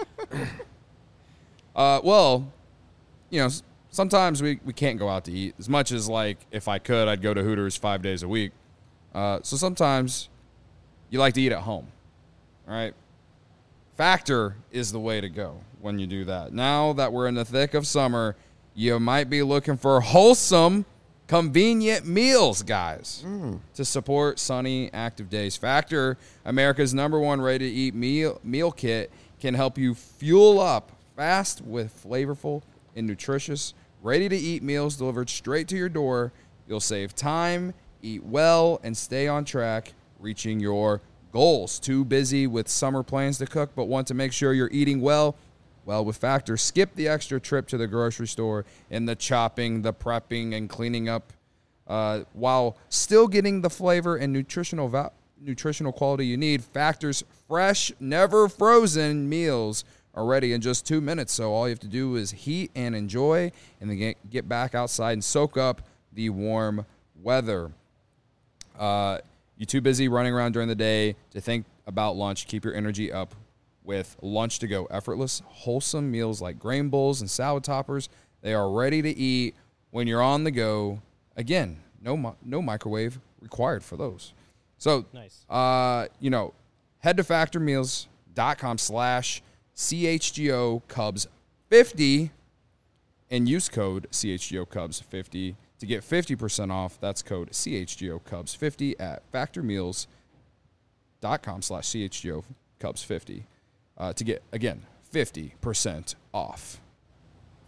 Uh, well, you know, s- sometimes we, we can't go out to eat. As much as, like, if I could, I'd go to Hooters five days a week. Uh, so sometimes you like to eat at home, all right? Factor is the way to go when you do that. Now that we're in the thick of summer, you might be looking for wholesome, convenient meals, guys, to support sunny, active days. Factor, America's number one ready-to-eat meal, meal kit, can help you fuel up fast with flavorful and nutritious, ready-to-eat meals delivered straight to your door. You'll save time, eat well, and stay on track, reaching your goals. Too busy with summer plans to cook, but want to make sure you're eating well? Well, with Factor, skip the extra trip to the grocery store and the chopping, the prepping, and cleaning up, uh, while still getting the flavor and nutritional va- nutritional quality you need. Factor's fresh, never frozen meals are ready in just two minutes. So all you have to do is heat and enjoy, and then get, get back outside and soak up the warm weather. Uh, you're too busy running around during the day to think about lunch. Keep your energy up with Lunch to Go. Effortless, wholesome meals like grain bowls and salad toppers. They are ready to eat when you're on the go. Again, no mi- no microwave required for those. So, Nice. uh, you know, head to factormeals.com slash CHGO Cubs fifty and use code C H G O Cubs fifty to get fifty percent off. That's code C H G O Cubs fifty at factormeals.com slash CHGO Cubs fifty uh, to get, again, fifty percent off.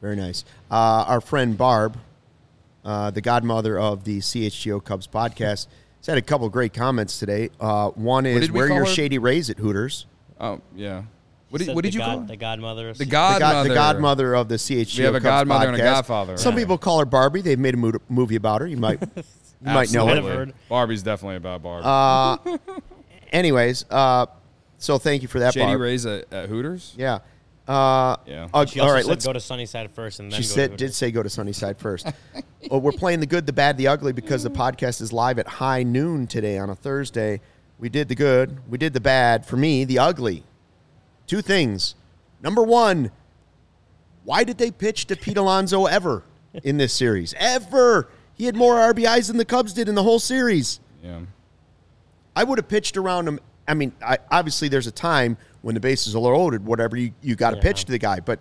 Very nice. Uh, our friend Barb, uh, the godmother of the C H G O Cubs podcast, has had a couple of great comments today. Uh, one is, did we where call your her? Shady Rays at Hooters. Oh, yeah. What did, Said what did the you god, call her? The godmother. Of The The, godmother. god, the godmother of the C H G O We have a Cubs godmother and a podcast. godfather. Some Yeah. people call her Barbie. They've made a mo- movie about her. You might, you might know Might it. have heard. Barbie's definitely about Barbie. Uh, anyways, uh, so thank you for that, Shady Barb. Rays at, at Hooters? Yeah. Uh, Yeah. uh, She all also right, said let's. go to Sunnyside first and then She go said, to did say go to Sunnyside first. Well, we're playing the good, the bad, the ugly because the podcast is live at high noon today on a Thursday. We did the good, we did the bad. For me, the ugly. Two things. Number one, why did they pitch to Pete Alonso ever in this series? Ever. He had more R B Is than the Cubs did in the whole series. Yeah. I would have pitched around him. I mean, I, obviously there's a time when the bases are loaded, whatever, you, you got to Yeah. pitch to the guy. But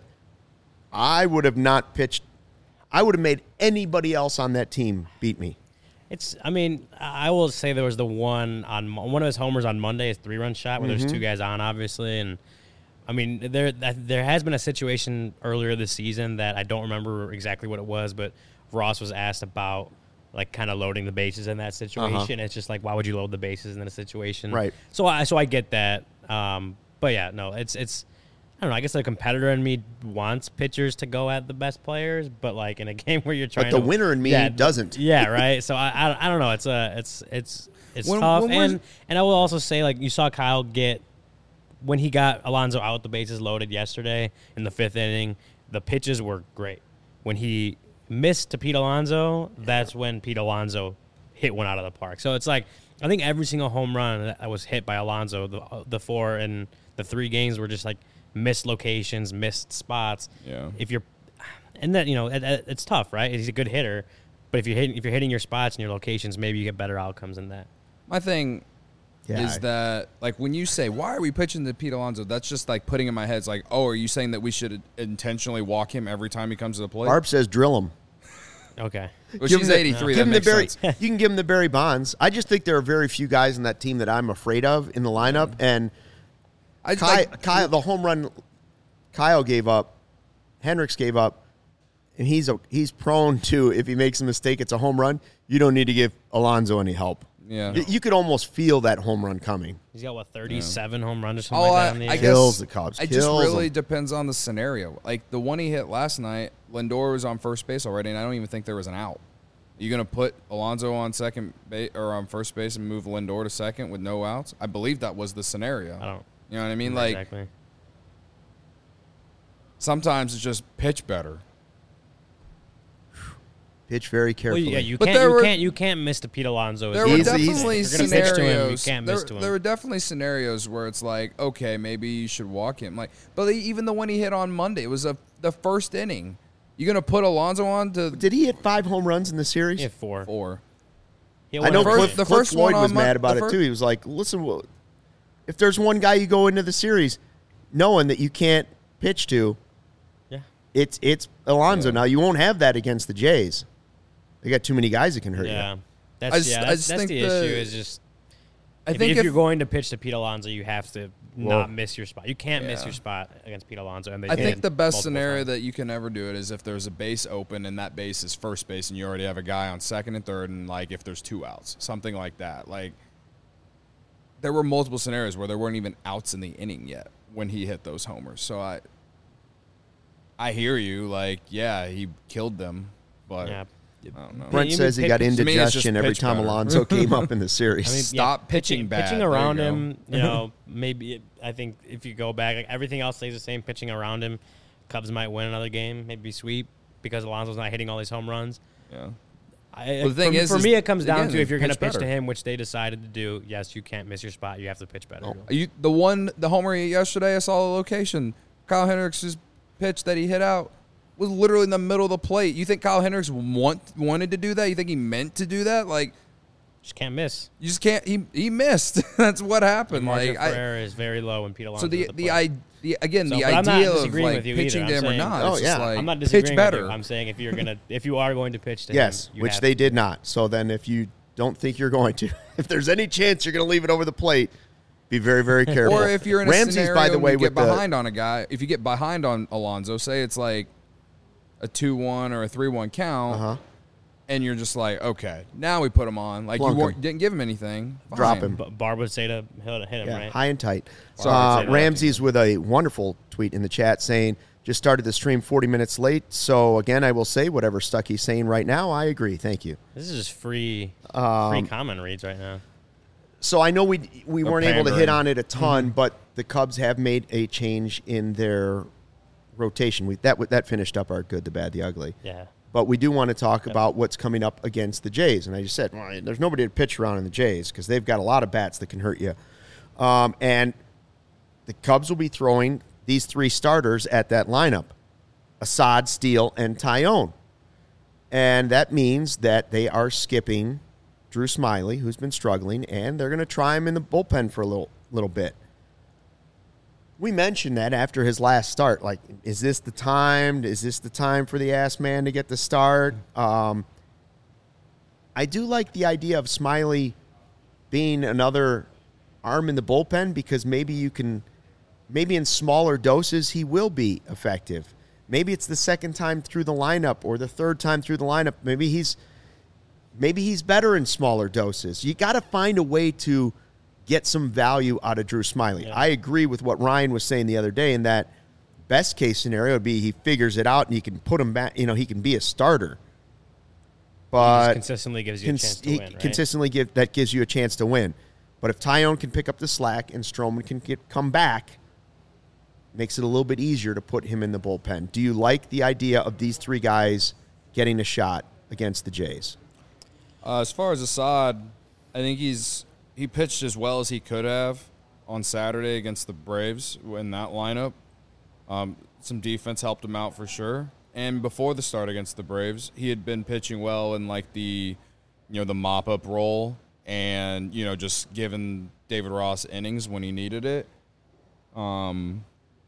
I would have not pitched. I would have made anybody else on that team beat me. It's. I mean, I will say there was the one on Mo- one of his homers on Monday, his three-run shot, where Mm-hmm. there's two guys on, obviously, and I mean, there that, there has been a situation earlier this season that I don't remember exactly what it was, but Ross was asked about like kind of loading the bases in that situation. Uh-huh. It's just like, why would you load the bases in a situation? Right. So I so I get that. Um, but yeah, no, it's it's. I don't know. I guess the competitor in me wants pitchers to go at the best players, but like in a game where you're trying the to, winner in me yeah, doesn't. Yeah, right. So I, I, I don't know. It's a, it's, it's, it's When- tough. when we're- and and I will also say, like, you saw Kyle get when he got Alonso out, the bases loaded yesterday in the fifth inning. The pitches were great. When he missed to Pete Alonso, that's when Pete Alonso hit one out of the park. So it's like I think every single home run that was hit by Alonso, the the four and the three games were just like missed locations, missed spots. Yeah. If you're, and that you know, it, it- it's tough, right? He's a good hitter, but if you're hitting, if you're hitting your spots and your locations, maybe you get better outcomes than that. My thing Yeah. is that, like, when you say, why are we pitching to Pete Alonso, that's just, like, putting in my head, it's like, oh, are you saying that we should intentionally walk him every time he comes to the plate? Barb says drill him. Okay. Well, Give she's him the- eighty-three. Give That him the makes Barry. sense. You can give him the Barry Bonds. I just think there are very few guys in that team that I'm afraid of in the lineup. And I Kyle, like, Kyle, the home run Kyle gave up, Hendricks gave up, and he's a, he's prone to, if he makes a mistake, it's a home run. You don't need to give Alonso any help. Yeah. Y- You could almost feel that home run coming. He's got what thirty-seven home runs or something Oh, like I, that on the I year? Kills guess the Cubs, It just kills really them. depends on the scenario. Like the one he hit last night, Lindor was on first base already, and I don't even think there was an out. Are you gonna put Alonso on second base or on first base and move Lindor to second with no outs? I believe that was the scenario. I don't. You know what I mean? Like exactly. sometimes it's just pitch better. Pitch very Well, carefully. yeah, you But can't. there You were- can't. You can't miss to Pete Alonso. There It's were He's- easy. he's- definitely If you're gonna pitch to him, you scenarios. can't there, miss to him. there were definitely scenarios where it's like, okay, maybe you should walk him. Like, but even the one he hit on Monday, it was a, the first inning. You gonna put Alonso on to Did he hit five home runs in the series? He had four. four? He had I one know every first- Cliff, game. the Cliff first Floyd one was on Mon- mad about the it fir- too. He was like, "Listen, well, if there's one guy you go into the series knowing that you can't pitch to, Yeah. it's it's Alonso. Yeah. Now you won't have that against the Jays. They got too many guys that can hurt Yeah. you. That's I just- yeah. I That's, just that's think the, the- issue. Is just I if, think if, if you're going to pitch to Pete Alonso, you have to Well, not miss your spot. You can't miss yeah. your spot against Pete Alonso. And they I did think the best multiple scenario times. that you can ever do it is if there's a base open and that base is first base and you already have a guy on second and third, and like if there's two outs, something like that. Like there were multiple scenarios where there weren't even outs in the inning yet when he hit those homers. So I I hear you. Like, yeah, he killed them, but Yeah. I don't know. Brent you says mean he got pitch- to me, it's just indigestion every pitch time better. Alonso came up in the series. I mean, Stop yeah, pitching bad. Pitching There you around go. him, you know, maybe it, I think if you go back, like everything else stays the same. Pitching around him, Cubs might win another game, maybe sweep because Alonso's not hitting all these home runs. Yeah. I, Well, the thing for, is- for is, me, it comes down again, to if you're going to pitch pitch to better. him, which they decided to do. Yes, you can't miss your spot. You have to pitch better. Oh. You the one the homer he hit yesterday, I saw the location. Kyle Hendricks' pitch that he hit out was literally in the middle of the plate. You think Kyle Hendricks want wanted to do that? You think he meant to do that? Like Just can't miss. you just can't. He he missed. That's what happened. Margin Like for I, error is very low when Pete Alonso. so the the, the I the again So, the but I'm not idea of disagreeing like with you pitching either. to I'm him or saying- not. Oh, it's just yeah. like I'm not pitch disagreeing better. with you. I'm saying if you're gonna, if you are going to pitch to yes, him, you which have they to. did not. So then, if you don't think you're going to, if there's any chance you're going to leave it over the plate, be very, very careful. Or if you're in a Ramsey's, scenario by the and way, you with get the behind on a guy, if you get behind on Alonso, say it's like a two one or a three one count, Uh-huh. and you're just like, okay, now we put him on. Like Plunk you him. weren't- didn't give him anything. Drop Fine. him. B- Barb would say to hit hit him, Yeah, right? high and tight. So Sorry to uh, say that. Ramsey's with a wonderful tweet in the chat saying, just started the stream forty minutes late. So again, I will say whatever Stucky's saying right now, I agree. Thank you. This is just free, Um, free comment reads right now. So I know we we Or weren't able to hit pandering. on it a ton, but the Cubs have made a change in their rotation. We, that that finished up our good, the bad, the ugly. Yeah. But we do want to talk about what's coming up against the Jays. And I just said, well, there's nobody to pitch around in the Jays because they've got a lot of bats that can hurt you. Um, and the Cubs will be throwing these three starters at that lineup, Assad, Steele, and Tyone. And that means that they are skipping Drew Smiley, who's been struggling, and they're going to try him in the bullpen for a little little bit. We mentioned that after his last start, like, is this the time? Is this the time for the ass man to get the start? Um, I do like the idea of Smiley being another arm in the bullpen because maybe you can, maybe in smaller doses he will be effective. Maybe it's the second time through the lineup or the third time through the lineup. Maybe he's, maybe he's better in smaller doses. You got to find a way to get some value out of Drew Smiley. Yeah. I agree with what Ryan was saying the other day in that best case scenario would be he figures it out and you can put him back, you know, he can be a starter. He But just consistently gives you a cons- chance to he win, right? consistently give that gives you a chance to win. But if Tyone can pick up the slack and Stroman can get come back, makes it a little bit easier to put him in the bullpen. Do you like the idea of these three guys getting a shot against the Jays? Uh, as far as Assad, I think he's he pitched as well as he could have on Saturday against the Braves in that lineup. Um, some defense helped him out for sure. And before the start against the Braves, he had been pitching well in like the, you know, the mop-up role and, you know, just giving David Ross innings when he needed it. Um,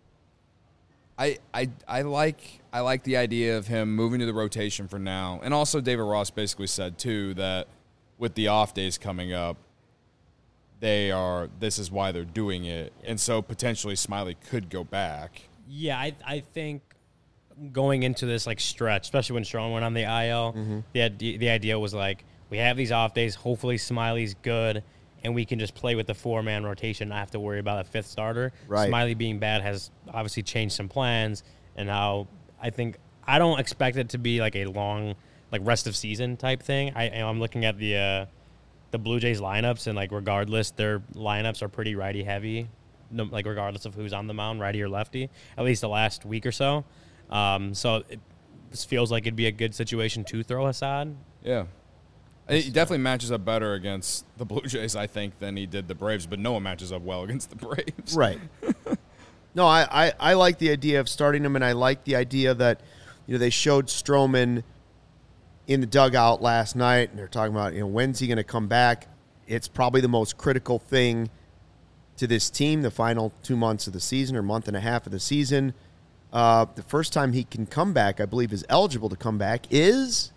I, I I like I like the idea of him moving to the rotation for now. And also David Ross basically said too that with the off days coming up, they are this is why they're doing it. And so potentially Smiley could go back. Yeah, I I think going into this like stretch, especially when Stroman went on the I L, Mm-hmm. the idea, the idea was like we have these off days. Hopefully Smiley's good, and we can just play with the four man rotation, not have to worry about a fifth starter. Right. Smiley being bad has obviously changed some plans, and how I think I don't expect it to be like a long like rest of season type thing. I I'm looking at the uh, the Blue Jays lineups, and like regardless, their lineups are pretty righty heavy. No, like regardless of who's on the mound, righty or lefty, at least the last week or so. Um, so it this feels like it'd be a good situation to throw Assad. Yeah. It definitely matches up better against the Blue Jays, I think, than he did the Braves, but no one matches up well against the Braves. Right. No, I, I, I like the idea of starting him, and I like the idea that, you know, they showed Stroman in the dugout last night, and they're talking about, you know, when's he going to come back? It's probably the most critical thing to this team, the final two months of the season or month and a half of the season. Uh, the first time he can come back, I believe, is eligible to come back, is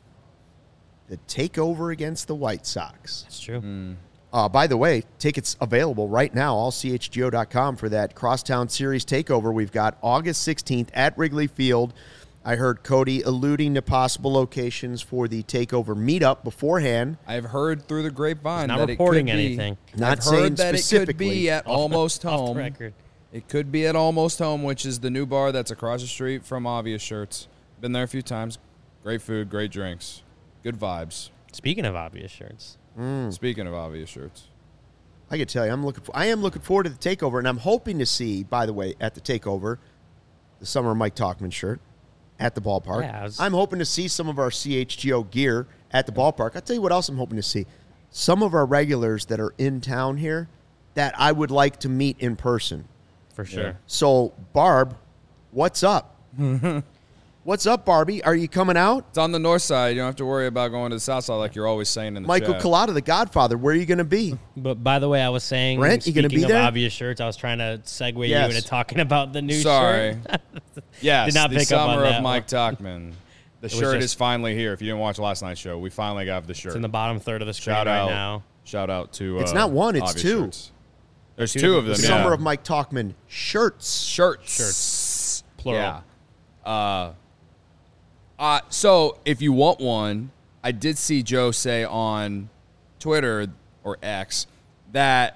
the takeover against the White Sox. That's true. Uh, by the way, tickets available right now, all C H G O dot com for that Crosstown Series takeover. We've got August sixteenth at Wrigley Field. I heard Cody alluding to possible locations for the takeover meetup beforehand. I've heard through the grapevine He's not that reporting it could be, anything. Not I've saying heard that it could specifically. be at Almost Off Home. the record. It could be at Almost Home, which is the new bar that's across the street from Obvious Shirts. Been there a few times. Great food, great drinks, good vibes. Speaking of obvious shirts, Speaking of Obvious Shirts. I can tell you, I'm looking. For, I am looking forward to the takeover, and I'm hoping to see, by the way, at the takeover, the summer Mike Talkman shirt at the ballpark. Yeah, I was- I'm hoping to see some of our C H G O gear at the ballpark. I'll tell you what else I'm hoping to see. Some of our regulars that are in town here that I would like to meet in person. for sure. So, Barb, what's up? What's up, Barbie? Are you coming out? It's on the north side. You don't have to worry about going to the south side like you're always saying in the Michael chat. Collada, the Godfather, where are you going to be? But by the way, I was saying, Brent, you gonna speaking be of there? obvious shirts, I was trying to segue Yes. you into talking about the new Sorry. shirt. Yes, Did not the pick up on summer that of Mike one. Talkman. The was shirt just- is finally here. If you didn't watch last night's show, we finally got the shirt. It's in the bottom third of the screen Shout right out. now. Shout out to. It's uh, not one, it's Obvious two. Shirts. There's Two two of different- them. Summer yeah. of Mike Talkman shirts. shirts. Shirts. Plural. Yeah. Uh, Uh, so if you want one, I did see Joe say on Twitter or X that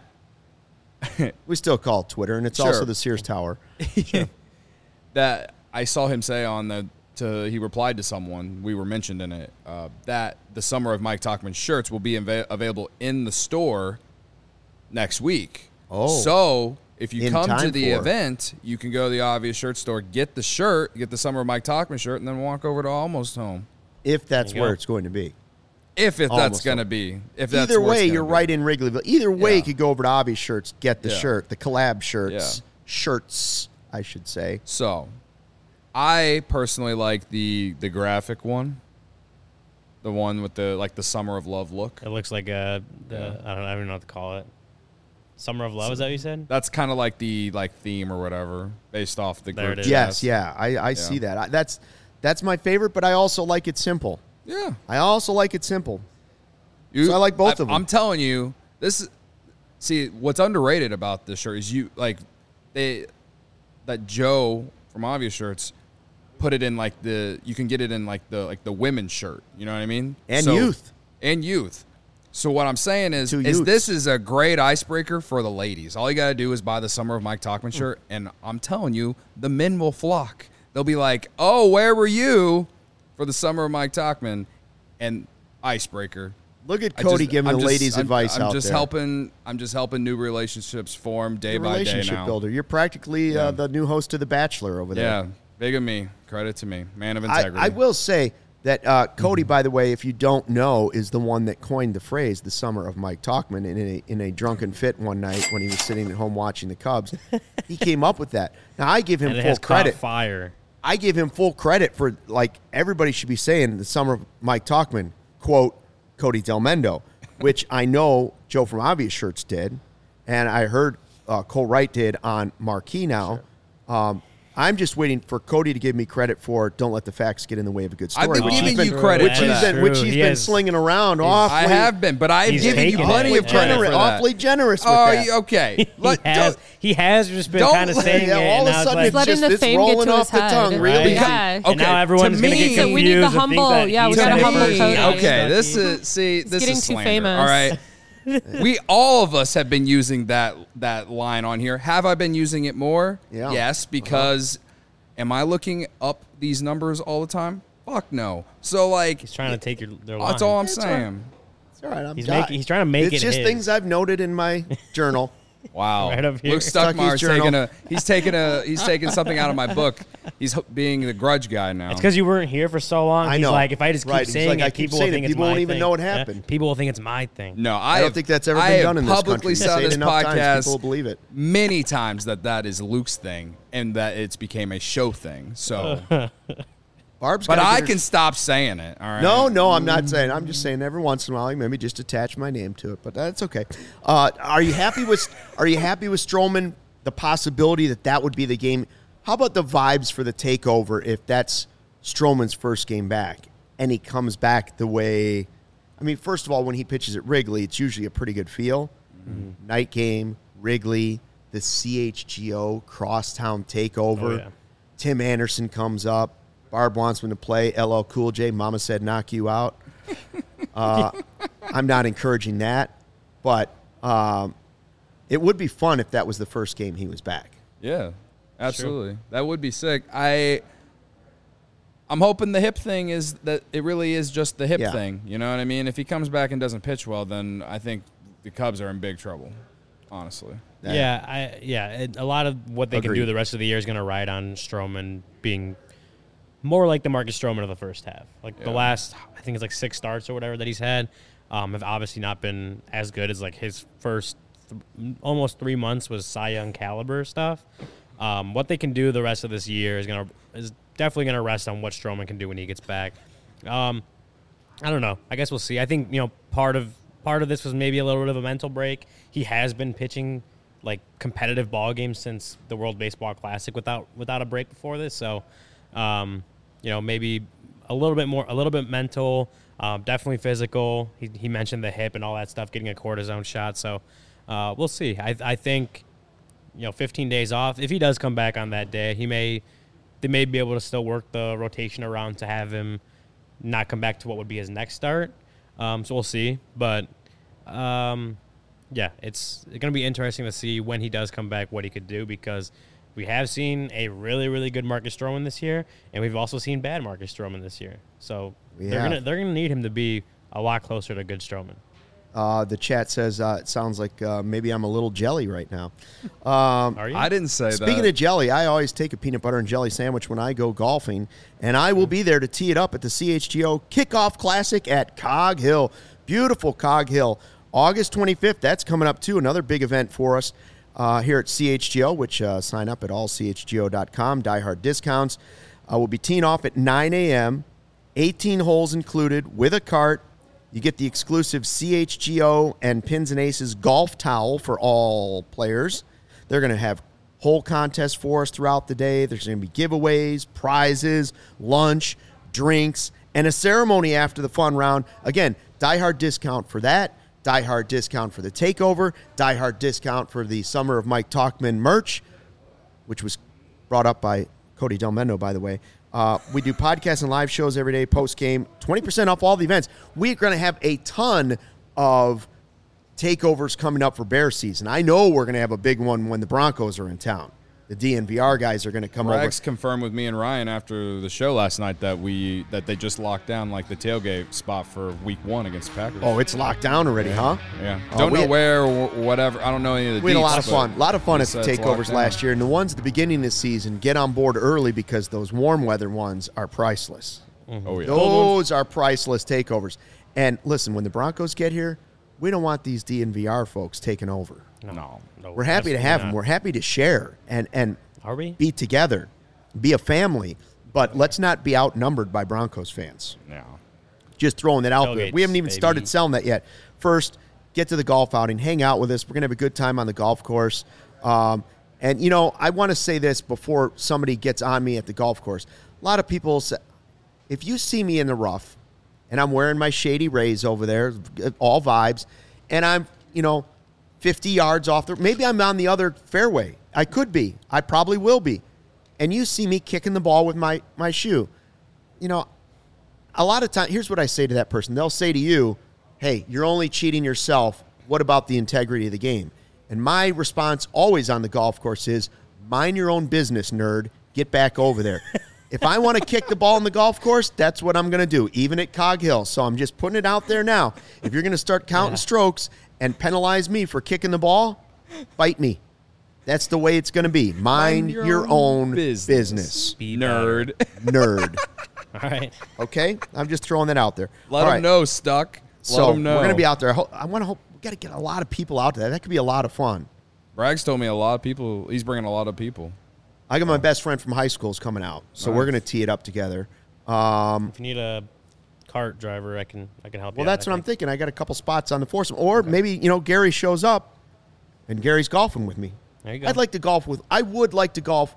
We still call it Twitter, and it's Sure. also the Sears Tower. that I saw him say on the to he replied to someone, we were mentioned in it, uh, that the Summer of Mike Talkman shirts will be inva- available in the store next week. Oh. So if you In come to time the for- event, you can go to the Obvious Shirt store, get the shirt, get the Summer of Mike Talkman shirt, and then walk over to Almost Home. If that's There you where go. it's going to be. If it, that's Almost going to Home. be. If that's Either where it's way, gonna you're be. right in Wrigleyville. Either way, Yeah. you could go over to Obvious Shirts, get the Yeah. shirt, the collab shirts, Yeah. shirts, I should say. So, I personally like the the graphic one, the one with the like the Summer of Love look. It looks like a the Yeah. I don't I don't even know what to call it. Summer of Love, is that what you said? That's kind of like the like theme or whatever, based off the There group it is. Yes, chats. yeah, I, I see that. I, that's that's my favorite, but I also like it simple. yeah. I also like it simple. You- So I like both of them. I'm telling you, this is see what's underrated about this shirt is you like they that Joe from Obvious Shirts put it in like the you can get it in like the like the women's shirt. You know what I mean? And So- youth. and youth. So what I'm saying is, Two is youths. this is a great icebreaker for the ladies. All you got to do is buy the Summer of Mike Talkman shirt, and I'm telling you, the men will flock. They'll be like, "Oh, where were you for the Summer of Mike Talkman?" And icebreaker. Look at I Cody just- giving I'm the just- ladies I'm- advice I'm out just there. helping. I'm just helping new relationships form day You're a by day relationship now. builder. You're practically Yeah. uh, the new host of The Bachelor over there. Yeah, big of me. Credit to me, man of I, integrity. I will say that uh, Cody, by the way, if you don't know, is the one that coined the phrase "the Summer of Mike Talkman" in a, in a drunken fit one night when he was sitting at home watching the Cubs. He came up with that. Now I give him And it full has credit. caught fire. I give him full credit for, like, everybody should be saying the Summer of Mike Talkman, quote, Cody Del Mendo, which I know Joe from Obvious Shirts did, and I heard uh, Cole Wright did on Marquee now. Um, I'm just waiting for Cody to give me credit for "Don't let the facts get in the way of a good story." I've been which he's giving you been- credit which for he's that. been, which True. he's He been has- slinging around awfully. I have been, but I've He's given you taken plenty it. of credit generous, for that. awfully generous with Oh, that. you- okay. He Let- has, don't- he has just been don't kind of let- saying yeah, it. all of and a now it's sudden like, it's letting just the it's fame get rolling to off his the head. tongue, really. Right. Yeah. And Okay, now everyone's to going to me- get So confused. we need the and think humble- that yeah, we he's gotta the humble first Cody. guy. Okay, this Stucky. is see, this getting is too slander. famous. All right, we all of us have been using that that line on here. Have I been using it more? Yeah. Yes, because am I looking up these numbers all the time? Fuck no. So like, He's trying to take your their line. that's all I'm It's all saying. It's all right. I'm He's di- making- he's trying to make it's it just his. things I've noted in my journal. Wow. Right up here. Luke Stucky's Stuckmeyer's journal. taking a he's taking a he's taking something out of my book. He's h- being the grudge guy now. It's because you weren't here for so long. I He's know. like, if I just keep Right. He's saying like, it, I keep people saying will it. think it's People my won't even thing. know it Yeah, happened. people will think it's my thing. No, I, I don't have- think that's ever I been have done in this publicly country. said on Say it this enough times, podcast people will believe it. many times that that is Luke's thing and that it's became a show thing. So, Barb's but gotta I get her- can stop saying it. All right. No, no, I'm not saying. I'm just saying every once in a while, like, maybe just attach my name to it, but that's okay. Uh, are you happy with? Are you happy with Stroman? The possibility that that would be the game. How about the vibes for the takeover if that's Stroman's first game back and he comes back the way? I mean, first of all, when he pitches at Wrigley, it's usually a pretty good feel. Mm-hmm. Night game, Wrigley, the C H G O crosstown takeover. Oh, yeah. Tim Anderson comes up. Barb wants him to play L L Cool J. Mama said knock you out. Uh, I'm not encouraging that, but um, it would be fun if that was the first game he was back. Yeah, absolutely. That would be sick. I I'm hoping the hip thing is that it really is just the hip Yeah. thing. You know what I mean? If he comes back and doesn't pitch well, then I think the Cubs are in big trouble. Honestly. That- Yeah, I yeah. It, a lot of what they can Agreed. do the rest of the year is going to ride on Stroman being more like the Marcus Stroman of the first half. Like the Yeah. last, I think it's like six starts or whatever that he's had, um, have obviously not been as good as like his first th- almost three months was Cy Young caliber stuff. Um, what they can do the rest of this year is gonna is definitely gonna rest on what Stroman can do when he gets back. Um, I don't know. I guess we'll see. I think you know part of part of this was maybe a little bit of a mental break. He has been pitching like competitive ball games since the World Baseball Classic without without a break before this. So, um, you know, maybe a little bit more, a little bit mental, um, definitely physical. He, he mentioned the hip and all that stuff, getting a cortisone shot. So, uh, we'll see. I I think, you know, fifteen days off. If he does come back on that day, he may they may be able to still work the rotation around to have him not come back to what would be his next start. Um, so we'll see. But, um, yeah, it's going to be interesting to see when he does come back what he could do, because we have seen a really, really good Marcus Stroman this year, and we've also seen bad Marcus Stroman this year. So We they're have. going to they're gonna need him to be a lot closer to good Stroman. Uh, the chat says uh, it sounds like uh, maybe I'm a little jelly right now. Um, Are you? I didn't say Speaking that. of jelly, I always take a peanut butter and jelly sandwich when I go golfing, and I will be there to tee it up at the C H G O Kickoff Classic at Cog Hill. Beautiful Cog Hill. August twenty-fifth, that's coming up too. Another big event for us uh, here at C H G O, which uh, sign up at all c h g o dot com. Diehard discounts. Uh, we'll be teeing off at nine a.m., eighteen holes included with a cart. You get the exclusive C H G O and Pins and Aces golf towel for all players. They're going to have hole contests for us throughout the day. There's going to be giveaways, prizes, lunch, drinks, and a ceremony after the fun round. Again, diehard discount for that, diehard discount for the takeover, diehard discount for the Summer of Mike Talkman merch, which was brought up by Cody Del Mendo, by the way. Uh, we do podcasts and live shows every day, post-game, twenty percent off all the events. We're going to have a ton of takeovers coming up for Bear season. I know we're going to have a big one when the Broncos are in town. The D N V R guys are going to come Rags over. confirmed with me and Ryan after the show last night that we that they just locked down like the tailgate spot for week one against the Packers. Oh, it's locked down already, huh? yeah. Oh, Don't we know had- where or whatever. I don't know any of the We had a lot deets, of fun. A lot of fun he at the said it's locked takeovers down. last year. And the ones at the beginning of the season, get on board early because those warm weather ones are priceless. Oh yeah. Those are priceless takeovers. And listen, when the Broncos get here, we don't want these D N V R folks taking over. No. No, We're happy to absolutely have not. them. We're happy to share and, and Are we? be together, be a family. But let's not be outnumbered by Broncos fans. No. Just throwing that out there. Tailgates, We haven't even baby. started selling that yet. First, get to the golf outing, hang out with us. We're going to have a good time on the golf course. Um, and, you know, I want to say this before somebody gets on me at the golf course. A lot of people say, if you see me in the rough and I'm wearing my Shady Rays over there, all vibes, and I'm, you know, fifty yards off the, maybe I'm on the other fairway. I could be. I probably will be. And you see me kicking the ball with my, my shoe. You know, a lot of times, here's what I say to that person. They'll say to you, hey, you're only cheating yourself. What about the integrity of the game? And my response always on the golf course is, mind your own business, nerd. Get back over there. If I want to kick the ball on the golf course, that's what I'm going to do, even at Cog Hill. So I'm just putting it out there now. If you're going to start counting Yeah. strokes and penalize me for kicking the ball, fight me. That's the way it's going to be. Mind, your, your own, business. business. Be Nerd. Nerd. All right. Okay? I'm just throwing that out there. Let All them right. know, Stuck. So Let them know. we're going to be out there. I, hope, I want to hope we got to get a lot of people out there. That could be a lot of fun. Rags told me a lot of people. He's bringing a lot of people. I got my best friend from high school is coming out, so we're going to tee it up together. Um, If you need a cart driver, I can I can help well, you. that's out, what I I'm thinking. I got a couple spots on the foursome, or maybe you know Gary shows up, and Gary's golfing with me. There you go. I'd like to golf with. I would like to golf.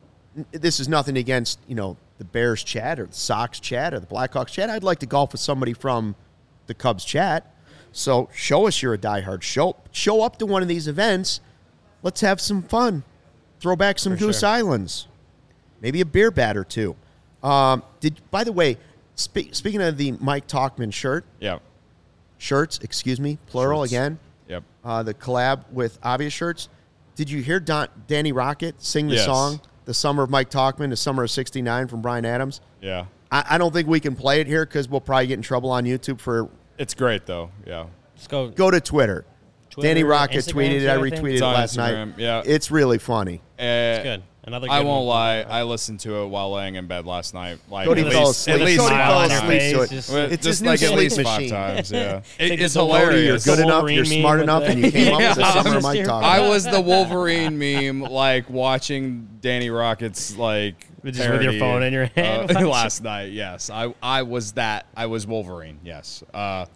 This is nothing against you know the Bears chat or the Sox chat or the Blackhawks chat. I'd like to golf with somebody from the Cubs chat. So show us you're a diehard. Show show up to one of these events. Let's have some fun. Throw back some For Goose sure. Islands. Maybe a beer bat or two. Um, did by the way, spe- speaking of the Mike Talkman shirt, Yeah. shirts, excuse me, plural Shirts. again. Yep. Uh, the collab with Obvious Shirts. Did you hear Don, Danny Rocket sing the Yes. song, "The Summer of Mike Talkman," "The Summer of sixty-nine" from Bryan Adams? Yeah. I, I don't think we can play it here because we'll probably get in trouble on YouTube for. It's great though. Yeah. Let's go. Go to Twitter. Twitter, Danny Rocket Instagram tweeted it. too, I I retweeted think. it It's on last Instagram, night. yeah. It's really funny. Uh, Good. Another. I good won't one. lie. I listened to it while laying in bed last night. Like Cody at fell least, asleep. at least Cody Smile fell on your asleep to face, it. just- Well, It's just his new like at sleep least machine. five times. Yeah, Take it, the it's Delorean, You're hilarious. good The enough. Wolverine You're meme smart with enough, the- and you came up with the Yeah. Summer of Mike I Talkman. I was the Wolverine meme, like watching Danny Rocket's like Just with your parody, phone in your hand. uh, last night. Yes, I I was that. I was Wolverine. Yes. Uh,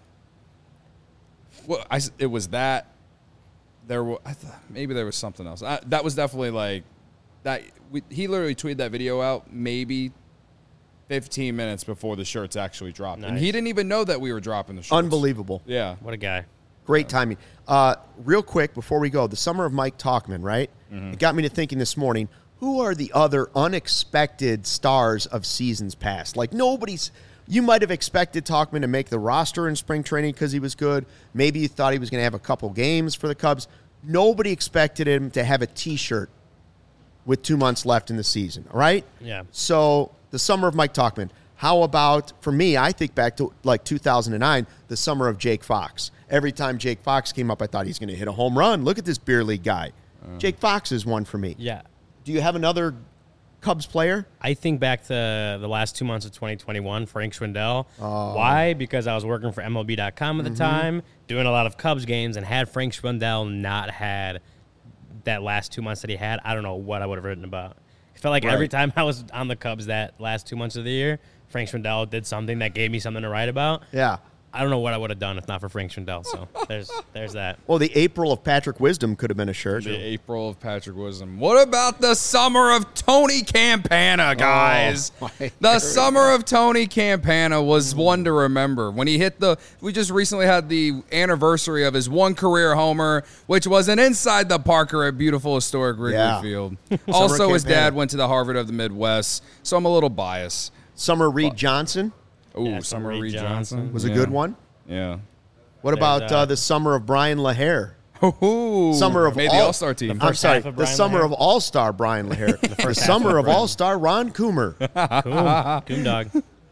well, I s- it was that. There was I thought maybe there was something else. I, that was definitely like that. We, he literally tweeted that video out maybe fifteen minutes before the shirts actually dropped, and Nice. he didn't even know that we were dropping the shirts. Unbelievable. Yeah. What a guy. Great timing. Uh, real quick before we go, the Summer of Mike Talkman, right? Mm-hmm. It got me to thinking this morning. who are the other unexpected stars of seasons past? Like, nobody's. You might have expected Tauchman to make the roster in spring training because he was good. Maybe you thought he was going to have a couple games for the Cubs. Nobody expected him to have a T-shirt with two months left in the season, all right? Yeah. So the summer of Mike Tauchman. How about, for me, I think back to like two thousand nine, the summer of Jake Fox. Every time Jake Fox came up, I thought he's going to hit a home run. Look at this beer league guy. Uh, Jake Fox is one for me. Yeah. Do you have another Cubs player? I think back to the last two months of twenty twenty-one, Frank Schwindel. Oh. Why? Because I was working for M L B dot com at the Mm-hmm. time, doing a lot of Cubs games, and had Frank Schwindel not had that last two months that he had, I don't know what I would have written about. I felt like Right. every time I was on the Cubs that last two months of the year, Frank Schwindel did something that gave me something to write about. Yeah. I don't know what I would have done if not for Frank Schwindel. So there's there's that. Well, the April of Patrick Wisdom could have been a shirt. The April of Patrick Wisdom. What about the summer of Tony Campana, guys? Oh, my the summer of Tony Campana was one to remember. When he hit the, we just recently had the anniversary of his one career homer, which was an inside the Parker at beautiful historic Wrigley Yeah. Field. Also, his Campana. dad went to the Harvard of the Midwest, so I'm a little biased. Summer Reed Johnson Ooh, Yeah, Summer Reed Reed Johnson. Johnson was a Yeah. good one. Yeah. What There's, about uh, uh, the summer of Brian LaHare? Ooh, Summer of made all, the All Star team. The I'm first sorry, half of the Brian summer LaHare. of All-Star Brian LaHare. the first half summer of of Brian. All-Star Ron Coomer. Cool. Coon dog.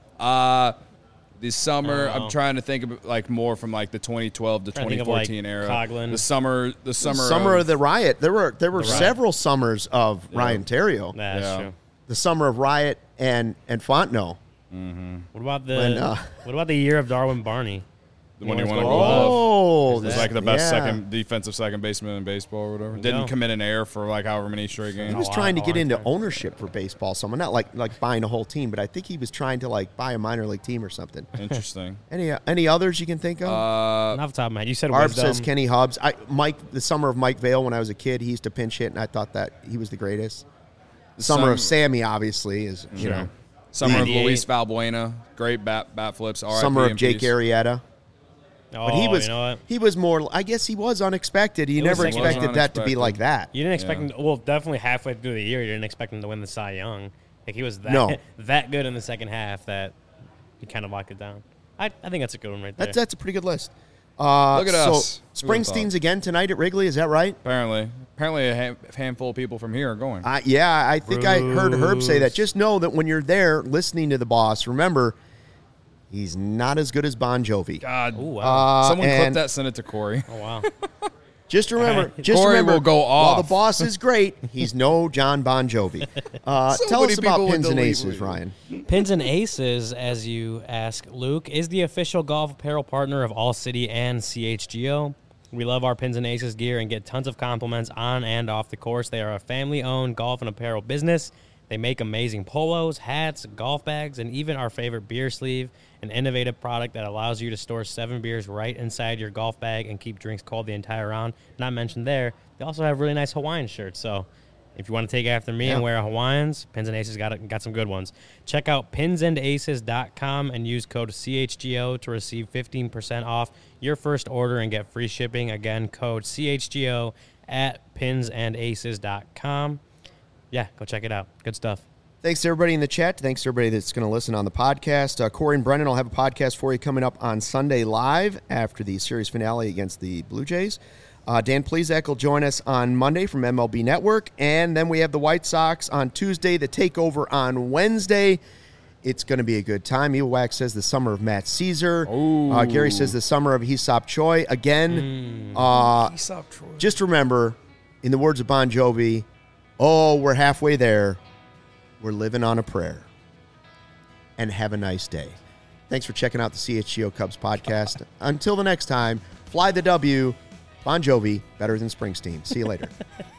Uh, the summer, Oh, wow. I'm trying to think of like more from like the twenty twelve to Trying to twenty think of, like, fourteen era. Coughlin. The summer, the summer, Summer of, of the Riot. There were there were The Riot. several summers of Ryan Terrio. That's Yeah. true. The summer of Riot and and Fontenot. What about the When, uh, what about the year of Darwin Barney? when he Anyone won a scored glove. Oh, There's It was that. like the best yeah. second defensive second baseman in baseball or whatever. Didn't go. commit an error for like however many straight games. He was Oh, trying to wow. get Oh, into okay. ownership for baseball. Someone not like like buying a whole team, but I think he was trying to like buy a minor league team or something. Interesting. Any any others you can think of? Uh, Not off the top of my head. You said Arb wisdom. says Kenny Hubbs. I Mike the summer of Mike Vale when I was a kid, he used to pinch hit, and I thought that he was the greatest. The summer of Some- Sammy obviously is you know. summer of ninety-eight. Luis Valbuena, great bat bat flips. R I P Summer of in Jake peace. Arrieta. Oh, But he was you know what? he was more. I guess he was unexpected. You It was never like- expected that to be unexpected. like that. You didn't expect Yeah. him. Well, definitely halfway through the year, you didn't expect him to win the Cy Young. Like he was that No. that good in the second half that he kind of locked it down. I, I think that's a good one right there. That's that's a pretty good list. Uh, Look at so us. Who would've Springsteen's thought? again tonight at Wrigley. Is that right? Apparently, apparently a ha- handful of people from here are going. Uh, yeah, I think I heard Herb say that. Just know that when you're there listening to the boss, remember he's not as good as Bon Jovi. God, Oh wow! Uh, someone clip and that, send it to Corey. oh wow! Just remember, just Corey remember, will go while the off. boss is great, he's no John Bon Jovi. Uh, So tell many us about people would Pins and delete Aces, me. Ryan. Pins and Aces, as you ask, Luke, is the official golf apparel partner of All City and C H G O. We love our Pins and Aces gear and get tons of compliments on and off the course. They are a family-owned golf and apparel business. They make amazing polos, hats, golf bags, and even our favorite beer sleeve, an innovative product that allows you to store seven beers right inside your golf bag and keep drinks cold the entire round. Not mentioned there, they also have really nice Hawaiian shirts, so if you want to take after me Yeah. and wear a Hawaiians, Pins and Aces got it, got some good ones. Check out pins and aces dot com and use code C H G O to receive fifteen percent off your first order and get free shipping. Again, code C H G O at pins and aces dot com. Yeah, go check it out. Good stuff. Thanks to everybody in the chat. Thanks to everybody that's going to listen on the podcast. Uh, Corey and Brennan will have a podcast for you coming up on Sunday live after the series finale against the Blue Jays. Uh, Dan Plezak will join us on Monday from M L B Network. And then we have the White Sox on Tuesday, the takeover on Wednesday. It's going to be a good time. Evil Wax says the summer of Matt Caesar. Uh, Gary says the summer of Hesop Choi. Again, uh, just remember, in the words of Bon Jovi, oh, we're halfway there. We're living on a prayer. And have a nice day. Thanks for checking out the C H G O Cubs podcast. Until the next time, fly the W. Bon Jovi, better than Springsteen. See you later.